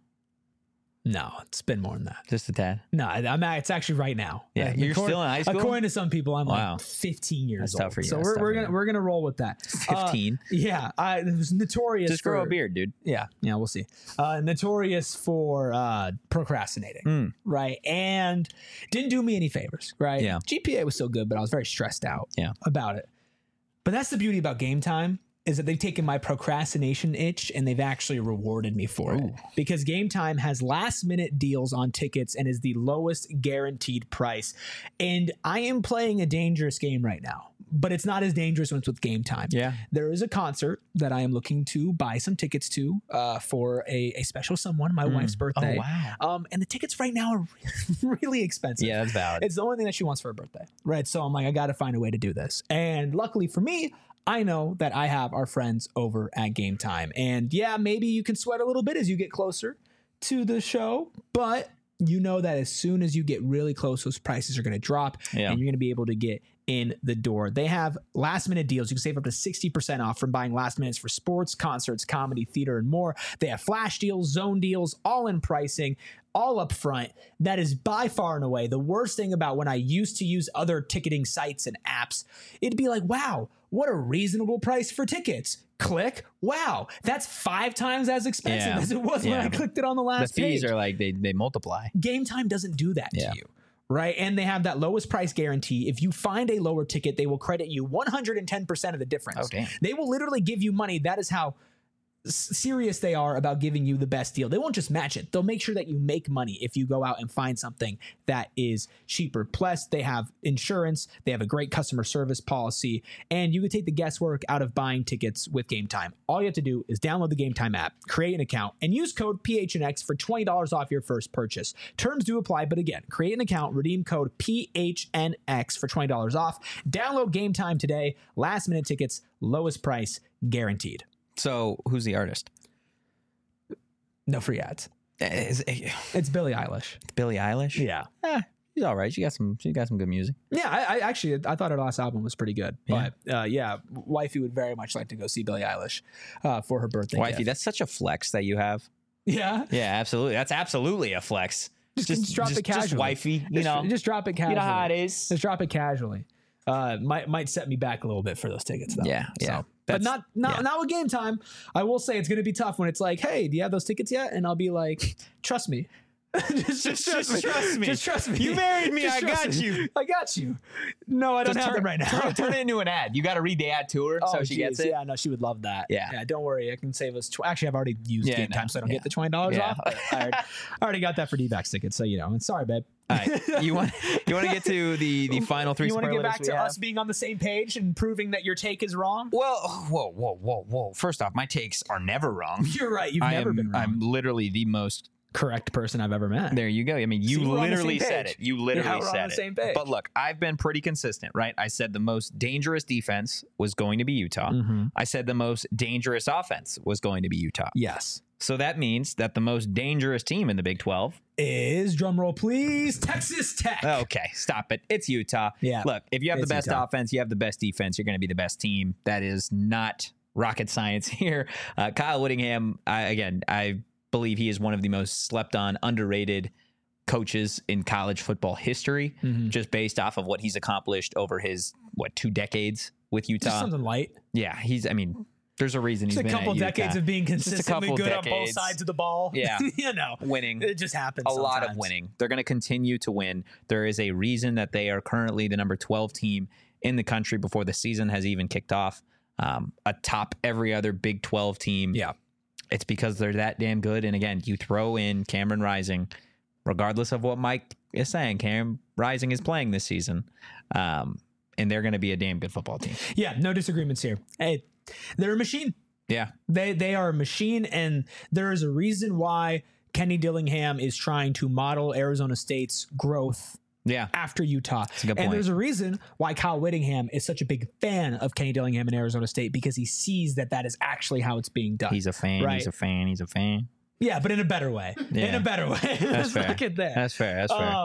No, it's been more than that. Just a tad? No, it's actually right now. Yeah, you're still in high school? According to some people, I'm Wow. like 15 years That's old. tough for you. So That's tough for you. we're gonna roll with that. 15? Yeah, it was notorious. Just grow a beard, dude. Yeah, we'll see. Notorious for procrastinating, right? And didn't do me any favors, right? Yeah. GPA was still good, but I was very stressed out about it. But that's the beauty about Game Time is that they've taken my procrastination itch and they've actually rewarded me for it. Because Game Time has last minute deals on tickets and is the lowest guaranteed price. And I am playing a dangerous game right now, but it's not as dangerous when it's with Game Time. Yeah. There is a concert that I am looking to buy some tickets to for a special someone, my wife's birthday. Oh, wow. And the tickets right now are really expensive. Yeah, that's valid. It's the only thing that she wants for her birthday, right? So I'm like, I got to find a way to do this. And luckily for me, I know that I have our friends over at Game Time. And yeah, maybe you can sweat a little bit as you get closer to the show, but you know that as soon as you get really close, those prices are going to drop and you're going to be able to get in the door. They have last minute deals. You can save up to 60% off from buying last minutes for sports, concerts, comedy, theater, and more. They have flash deals, zone deals, all in pricing, all up front. That is by far and away the worst thing about when I used to use other ticketing sites and apps. It'd be like, wow, what a reasonable price for tickets. Click. Wow, that's 5 times as expensive as it was when I clicked it on the last page. The fees are like they multiply. Game Time doesn't do that to you. Right. And they have that lowest price guarantee. If you find a lower ticket, they will credit you 110% of the difference. Oh, damn. They will literally give you money. That is how serious they are about giving you the best deal. They won't just match it. They'll make sure that you make money if you go out and find something that is cheaper. Plus, they have insurance. They have a great customer service policy, and you can take the guesswork out of buying tickets with Game Time. All you have to do is download the Game Time app, create an account, and use code PHNX for $20 off your first purchase. Terms do apply, but again, create an account, redeem code PHNX for $20 off. Download Game Time today. Last minute tickets, lowest price guaranteed. So who's the artist? No free ads. It's Billie Eilish. Billie Eilish? Yeah. She's all right. She got some good music. Yeah, I actually thought her last album was pretty good. Yeah. But wifey would very much like to go see Billie Eilish for her birthday. Wifey, gift. that's such a flex that you have. Yeah. Yeah, absolutely. That's absolutely a flex. Just drop it casually. Just wifey, Just drop it casually. You know how it is. Just drop it casually. might set me back a little bit for those tickets though. Yeah, yeah. So, but not with game time. I will say it's going to be tough when it's like, hey, do you have those tickets yet? And I'll be like, trust me. just trust me. Just trust me. You married me. I got you. I got you. No, I don't have them right now. Turn it into an ad. You got to read the ad to her so she gets it. Yeah, no, she would love that. Yeah. Don't worry. I can save us. Actually, I've already used game time, so I don't get the $20 off. But I already got that for D-backs tickets, so sorry, babe. All right. You want to get to the final three? You want to get back to have? us being on the same page and proving that your take is wrong? Well, whoa. First off, my takes are never wrong. You're right. You've never been wrong. I'm literally the most correct person I've ever met. There you go. I mean, you literally said it. You literally said on the same page. But look, I've been pretty consistent, right? I said the most dangerous defense was going to be Utah. Mm-hmm. I said the most dangerous offense was going to be Utah. Yes. So that means that the most dangerous team in the Big 12 is, drumroll please, Texas Tech. Okay, stop it. It's Utah. Yeah. Look, if you have the best Utah. offense, you have the best defense, you're going to be the best team. That is not rocket science here. Kyle Whittingham, I believe he is one of the most slept on, underrated coaches in college football history, just based off of what he's accomplished over his, 2 decades with Utah. Just something light. Yeah, there's a reason he's been a couple at Utah. decades of being consistently good on both decades. sides of the ball. Yeah. Winning. It just happens A lot of winning. They're going to continue to win. There is a reason that they are currently the number 12 team in the country before the season has even kicked off. Atop every other Big 12 team. Yeah. It's because they're that damn good. And again, you throw in Cameron Rising, regardless of what Mike is saying, Cameron Rising is playing this season. And they're going to be a damn good football team. Yeah, no disagreements here. Hey, they're a machine. Yeah. They are a machine, and there is a reason why Kenny Dillingham is trying to model Arizona State's growth after Utah. That's a good point. And there's a reason why Kyle Whittingham is such a big fan of Kenny Dillingham in Arizona State, because he sees that is actually how it's being done. He's a fan. Right? He's a fan. He's a fan. Yeah, but in a better way. Yeah. In a better way. That's fair. Look at that. That's fair.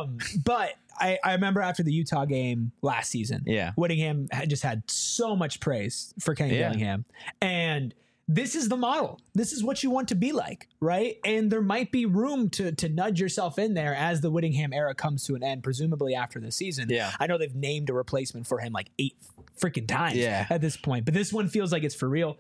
But I remember after the Utah game last season, Whittingham had so much praise for Kenny Dillingham. And this is the model. This is what you want to be like, right? And there might be room to nudge yourself in there as the Whittingham era comes to an end, presumably after the season. Yeah. I know they've named a replacement for him like 8 freaking times at this point, but this one feels like it's for real.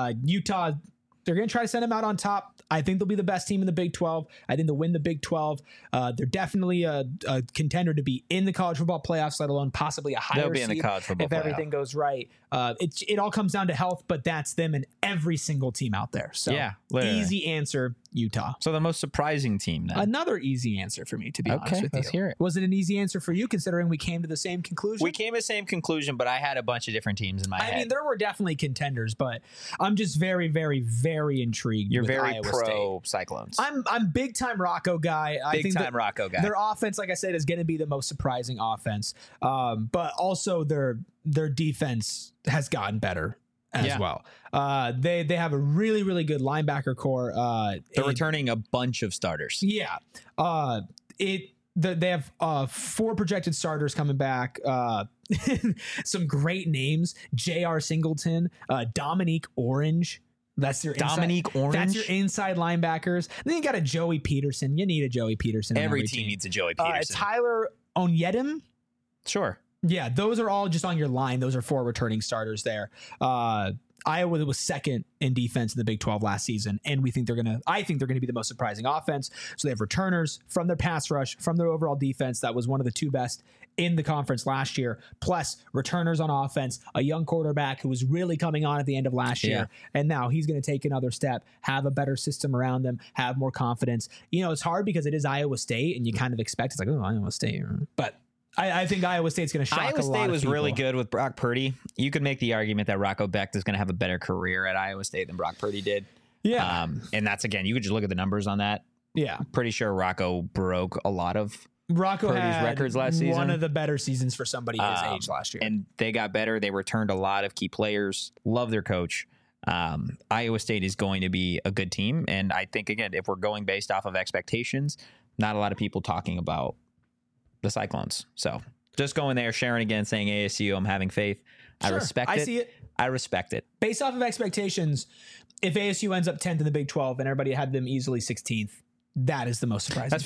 Utah, they're going to try to send them out on top. I think they'll be the best team in the Big 12. I think they'll win the Big 12. They're definitely a contender to be in the college football playoffs, let alone possibly a higher They'll be seed in the college football if playoff. everything goes right. It all comes down to health, but that's them and every single team out there. So literally. easy answer, Utah. So the most surprising team then. Another easy answer for me, to be honest with you. Let's hear it. Was it an easy answer for you, considering we came to the same conclusion? We came to the same conclusion, but I had a bunch of different teams in my head. I mean, there were definitely contenders, but I'm just very, very, very intrigued. You're with very Iowa pro State. Cyclones. I'm big time Rocco guy. Big time Rocco guy. Their offense, like I said, is going to be the most surprising offense. But also their defense has gotten better as well. They have a really, really good linebacker core. They're returning a bunch of starters. Yeah. They have 4 projected starters coming back. Some great names: J.R. Singleton, Dominique Orange. That's your Dominique Orange. That's your inside linebackers. Then you got a Joey Peterson. You need a Joey Peterson. Every team needs a Joey Peterson. Tyler Onyedim. Sure. Yeah, those are all just on your line. Those are 4 returning starters there. Iowa was second in defense in the Big 12 last season, and I think they're gonna be the most surprising offense. So they have returners from their pass rush, from their overall defense. That was one of the 2 best in the conference last year, plus returners on offense, a young quarterback who was really coming on at the end of last year. And now he's going to take another step, have a better system around them, have more confidence. It's hard because it is Iowa State, and you kind of expect it's like, oh, Iowa State. But I think Iowa State's going to shock a lot of people. Iowa State was really good with Brock Purdy. You could make the argument that Rocco Becht is going to have a better career at Iowa State than Brock Purdy did. Yeah. And that's, again, you could just look at the numbers on that. Yeah. Pretty sure Rocco broke a lot of Purdy's had records last season. One of the better seasons for somebody his age last year. And they got better. They returned a lot of key players. Love their coach. Iowa State is going to be a good team. And I think, again, if we're going based off of expectations, not a lot of people talking about the Cyclones. So just going there, sharing again, saying ASU, I'm having faith. Sure, I respect it. I see it. I respect it. Based off of expectations, if ASU ends up 10th in the Big 12 and everybody had them easily 16th, that is the most surprising. That's fair.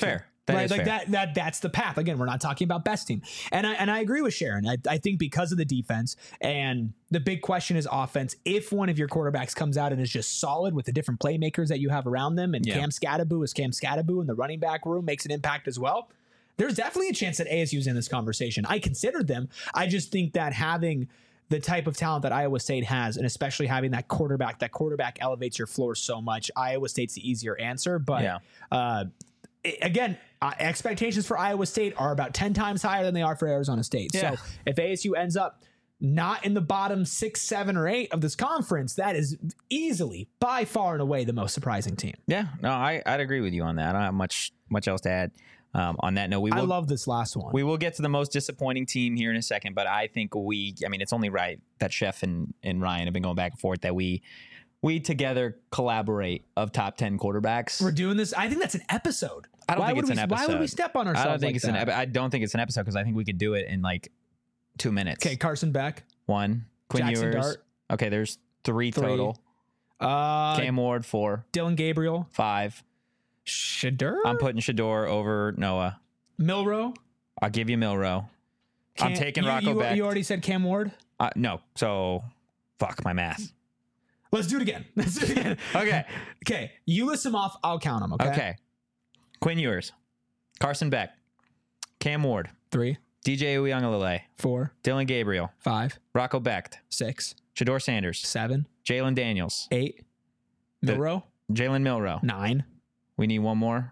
That is like fair. that's the path. Again, we're not talking about best team. And I agree with Sharon. I think because of the defense, and the big question is offense, if one of your quarterbacks comes out and is just solid with the different playmakers that you have around them, and Cam Scatteraboo in the running back room makes an impact as well, there's definitely a chance that ASU is in this conversation. I considered them. I just think that having the type of talent that Iowa State has, and especially having that quarterback elevates your floor so much. Iowa State's the easier answer, but again, expectations for Iowa State are about 10 times higher than they are for Arizona State. Yeah. So if ASU ends up not in the bottom 6, 7, or 8 of this conference, that is easily, by far and away, the most surprising team. Yeah, no, I'd agree with you on that. I don't have much else to add. On that note, I love this last one. We will get to the most disappointing team here in a second, but I think it's only right that Chef and Ryan have been going back and forth that we together collaborate of top 10 quarterbacks. We're doing this. I think that's an episode. I don't think it's an episode. Why would we step on ourselves? I don't think it's an episode because I think we could do it in like 2 minutes. Okay, Carson Beck. 1. Quinn Jackson Ewers. Dart. Okay, there's 3 total. Cam Ward 4. Dylan Gabriel 5. Shedeur. I'm putting Shedeur over Noah. Milrow. I'll give you Milrow. I'm taking Rocco Becht. You already said Cam Ward? No. So, fuck my math. Let's do it again. Okay. Okay. You list them off. I'll count them. Okay. Quinn Ewers. Carson Beck. Cam Ward. 3, DJ Uiagalelei. 4, Dylan Gabriel. 5, Rocco Becht. 6, Shedeur Sanders. 7, Jalen Daniels. 8, Milrow. Jalen Milrow. 9. We need one more.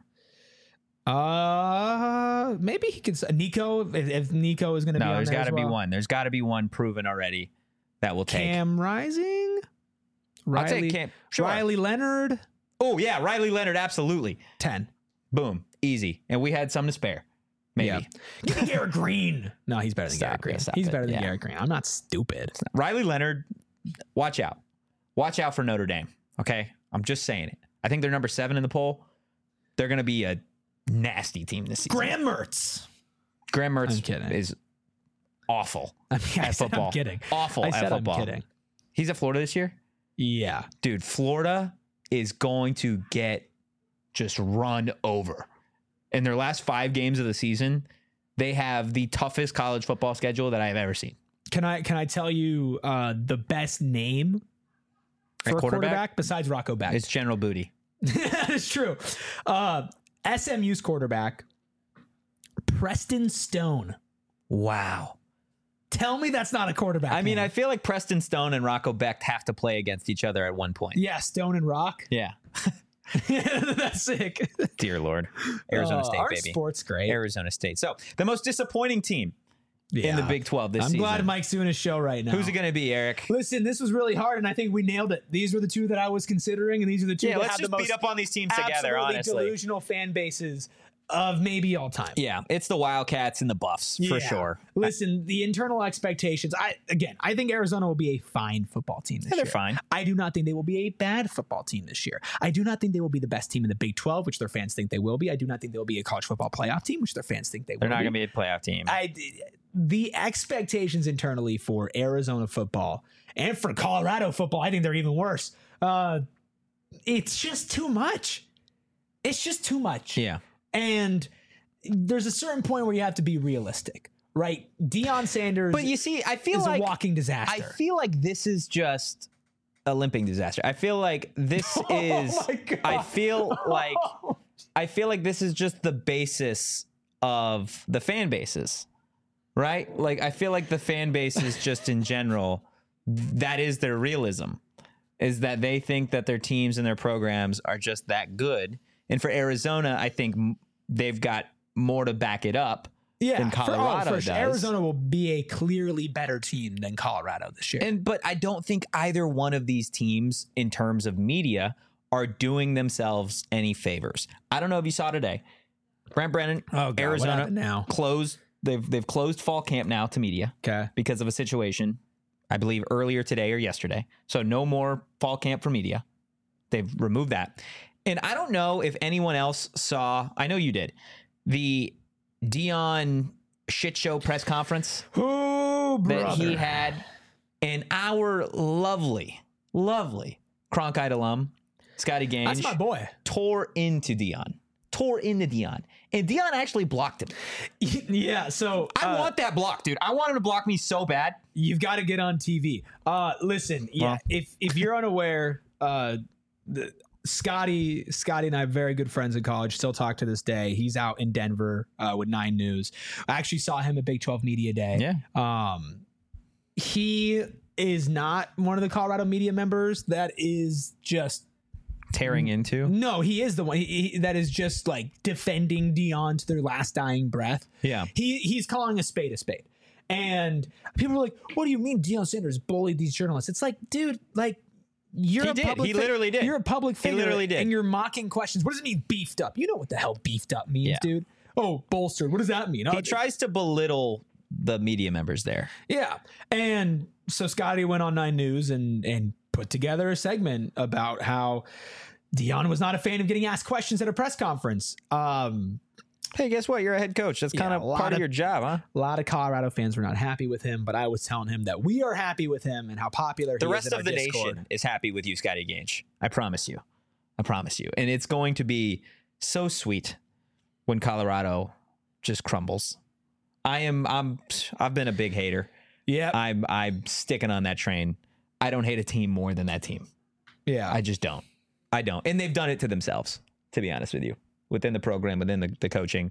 Maybe he could. Nico, if Nico is going to be on there's there got to as be well. one. There's got to be one proven already that will take. Cam Rising. I'll take Cam. Sure. Riley Leonard. Oh yeah, Riley Leonard. Absolutely. 10. Boom. Easy. And we had some to spare. Maybe. Yeah. Give me Garrett Green. No, he's better than Garrett Green. He's better than Garrett Green. I'm not stupid. Riley Leonard. Watch out. Watch out for Notre Dame. Okay. I'm just saying it. I think they're number 7 in the poll. They're going to be a nasty team this season. Graham Mertz. Graham Mertz I'm kidding. is awful I said football. I'm kidding. Awful I at said football. I'm kidding. He's at Florida this year? Yeah. Dude, Florida is going to get just run over. In their last 5 games of the season, they have the toughest college football schedule that I've ever seen. Can I tell you the best name for a quarterback besides Rocco Becht? It's General Booty. It's true. SMU's quarterback, Preston Stone. Wow. Tell me that's not a quarterback. I mean, name. I feel like Preston Stone and Rocco Becht have to play against each other at one point. Yeah, Stone and Rock. Yeah. That's sick. Dear Lord. Arizona State, our baby. Sport's great. Arizona State. So, the most disappointing team in Yeah. the Big 12 this I'm season. glad Mike's doing his show right now. Who's it going to be, Eric? Listen, this was really hard, and I think we nailed it. These were the 2 that I was considering, and these are the 2 Yeah, that let's have just the most beat up on these teams together, absolutely honestly. delusional fan bases of maybe all time. Yeah, it's the Wildcats and the Buffs, for Yeah. sure. Listen, the internal expectations. I think Arizona will be a fine football team this year. They're fine. I do not think they will be a bad football team this year. I do not think they will be the best team in the Big 12, which their fans think they will be. I do not think they will be a college football playoff team, which their fans think they will They're not be. going to be a playoff team. The expectations internally for Arizona football and for Colorado football, I think they're even worse. It's just too much. It's just too much. Yeah. And there's a certain point where you have to be realistic, right? Deion Sanders But you see, I feel is like a walking disaster. I feel like this is just a limping disaster. I feel like this is my God. I feel like this is just the basis of the fan bases. Right? Like I feel like the fan bases just in general, that is their realism. Is that they think that their teams and their programs are just that good. And for Arizona, I think they've got more to back it up than Colorado for does. sure. Arizona will be a clearly better team than Colorado this year. But I don't think either one of these teams, in terms of media, are doing themselves any favors. I don't know if you saw today. Brent Brennan, what Arizona happened now? closed. They've closed fall camp now to media Okay. because of a situation, I believe earlier today or yesterday. So no more fall camp for media. They've removed that. And I don't know if anyone else saw, I know you did, the Deion shit show press conference Oh, brother. that he had. And our lovely Cronkite alum, Scotty Gange, That's my boy. tore into Deion. tore into Dion, and Dion actually blocked him. Yeah, so I want that block, dude. I want him to block me so bad. you've got to get on TV. Listen, yeah, if you're unaware, Scotty and I are very good friends in college. Still talk to this day. He's out in Denver with 9 News. I actually saw him at Big 12 Media Day. Yeah. He is not one of the Colorado media members that is just Tearing into. no. He is the one that is just like defending Dion to their last dying breath. Yeah. He's calling a spade a spade. And people are like, what do you mean Deion Sanders bullied these journalists? It's like, dude, like you're He a did. public He literally did. You're a public figure. literally did. And you're mocking questions. What does it mean beefed up? You know what the hell beefed up means, Yeah. dude. Oh, bolstered. What does that mean? He tries to belittle the media members there. Yeah. And so Scotty went on 9 News and put together a segment about how Dion was not a fan of getting asked questions at a press conference. Hey, guess what? You're a head coach. That's Yeah, kind of a lot part of of- your job, huh? A lot of Colorado fans were not happy with him, but I was telling him that we are happy with him and how popular The he rest is in of our the Discord. nation is happy with you, Scotty Gange. I promise you. I promise you. And it's going to be so sweet when Colorado just crumbles. I've been a big hater. Yeah. I'm sticking on that train. I don't hate a team more than that team. Yeah. I just don't. I don't. And they've done it to themselves, to be honest with you, within the program, within the coaching.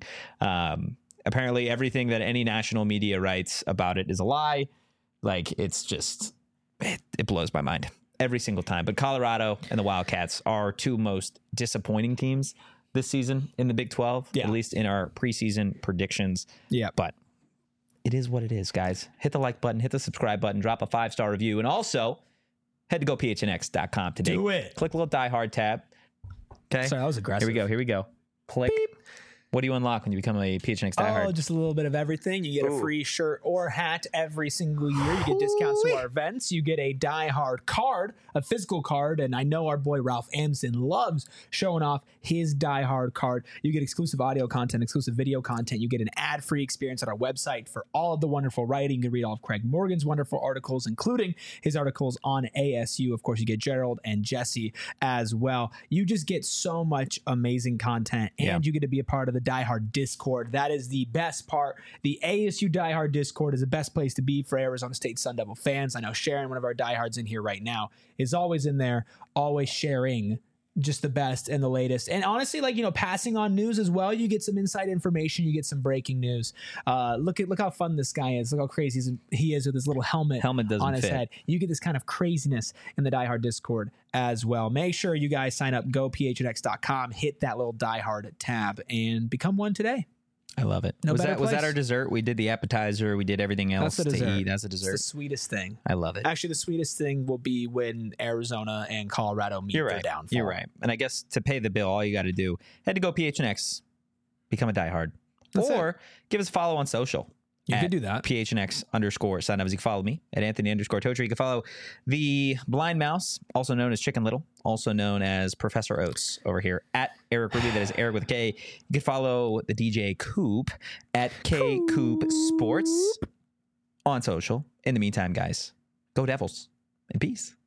Apparently, everything that any national media writes about it is a lie. Like, it's just, it blows my mind every single time. But Colorado and the Wildcats are 2 most disappointing teams this season in the Big 12, Yeah. at least in our preseason predictions. Yeah. But it is what it is, guys. Hit the like button, hit the subscribe button, drop a 5-star review, and also head to gophnx.com today. Do it. Click the little Die Hard tab. Okay. Sorry, that was aggressive. Here we go. Click. What do you unlock when you become a PHNX Die Oh, Hard? just a little bit of everything. You get a free shirt or hat every single year. You get discounts to our events. You get a Die Hard card, a physical card. And I know our boy Ralph Amson loves showing off his Die Hard card. You get exclusive audio content, exclusive video content. You get an ad-free experience on our website for all of the wonderful writing. You can read all of Craig Morgan's wonderful articles, including his articles on ASU. Of course, you get Gerald and Jesse as well. You just get so much amazing content, and you get to be a part of the Die Hard Discord. That is the best part. The ASU Die Hard Discord is the best place to be for Arizona State Sun Devil fans. I know Sharon, one of our diehards in here right now, is always in there, always sharing just the best and the latest. And honestly, like, passing on news as well. You get some inside information. You get some breaking news. Look how fun this guy is. Look how crazy he is with his little helmet Doesn't on his fit. head. You get this kind of craziness in the Die Hard Discord as well. Make sure you guys sign up, gophnx.com, hit that little Die Hard tab, and become one today. I love it. No was better that place. our dessert? We did the appetizer. We did everything else That's the to dessert. eat as a It's dessert. the sweetest thing. I love it. Actually, the sweetest thing will be when Arizona and Colorado meet You're their right. downfall. You're right. And I guess to pay the bill, all you got to do, head to GoPHNX, become a diehard, That's or give us a follow on social. You at could do that. PHNX_signups. You can follow me at Anthony_Totri. You can follow the Blind Mouse, also known as Chicken Little, also known as Professor Oates over here at Eric Ruby. That is Eric with a K. You can follow the DJ Coop at K Coop Sports on social. In the meantime, guys, go Devils and peace.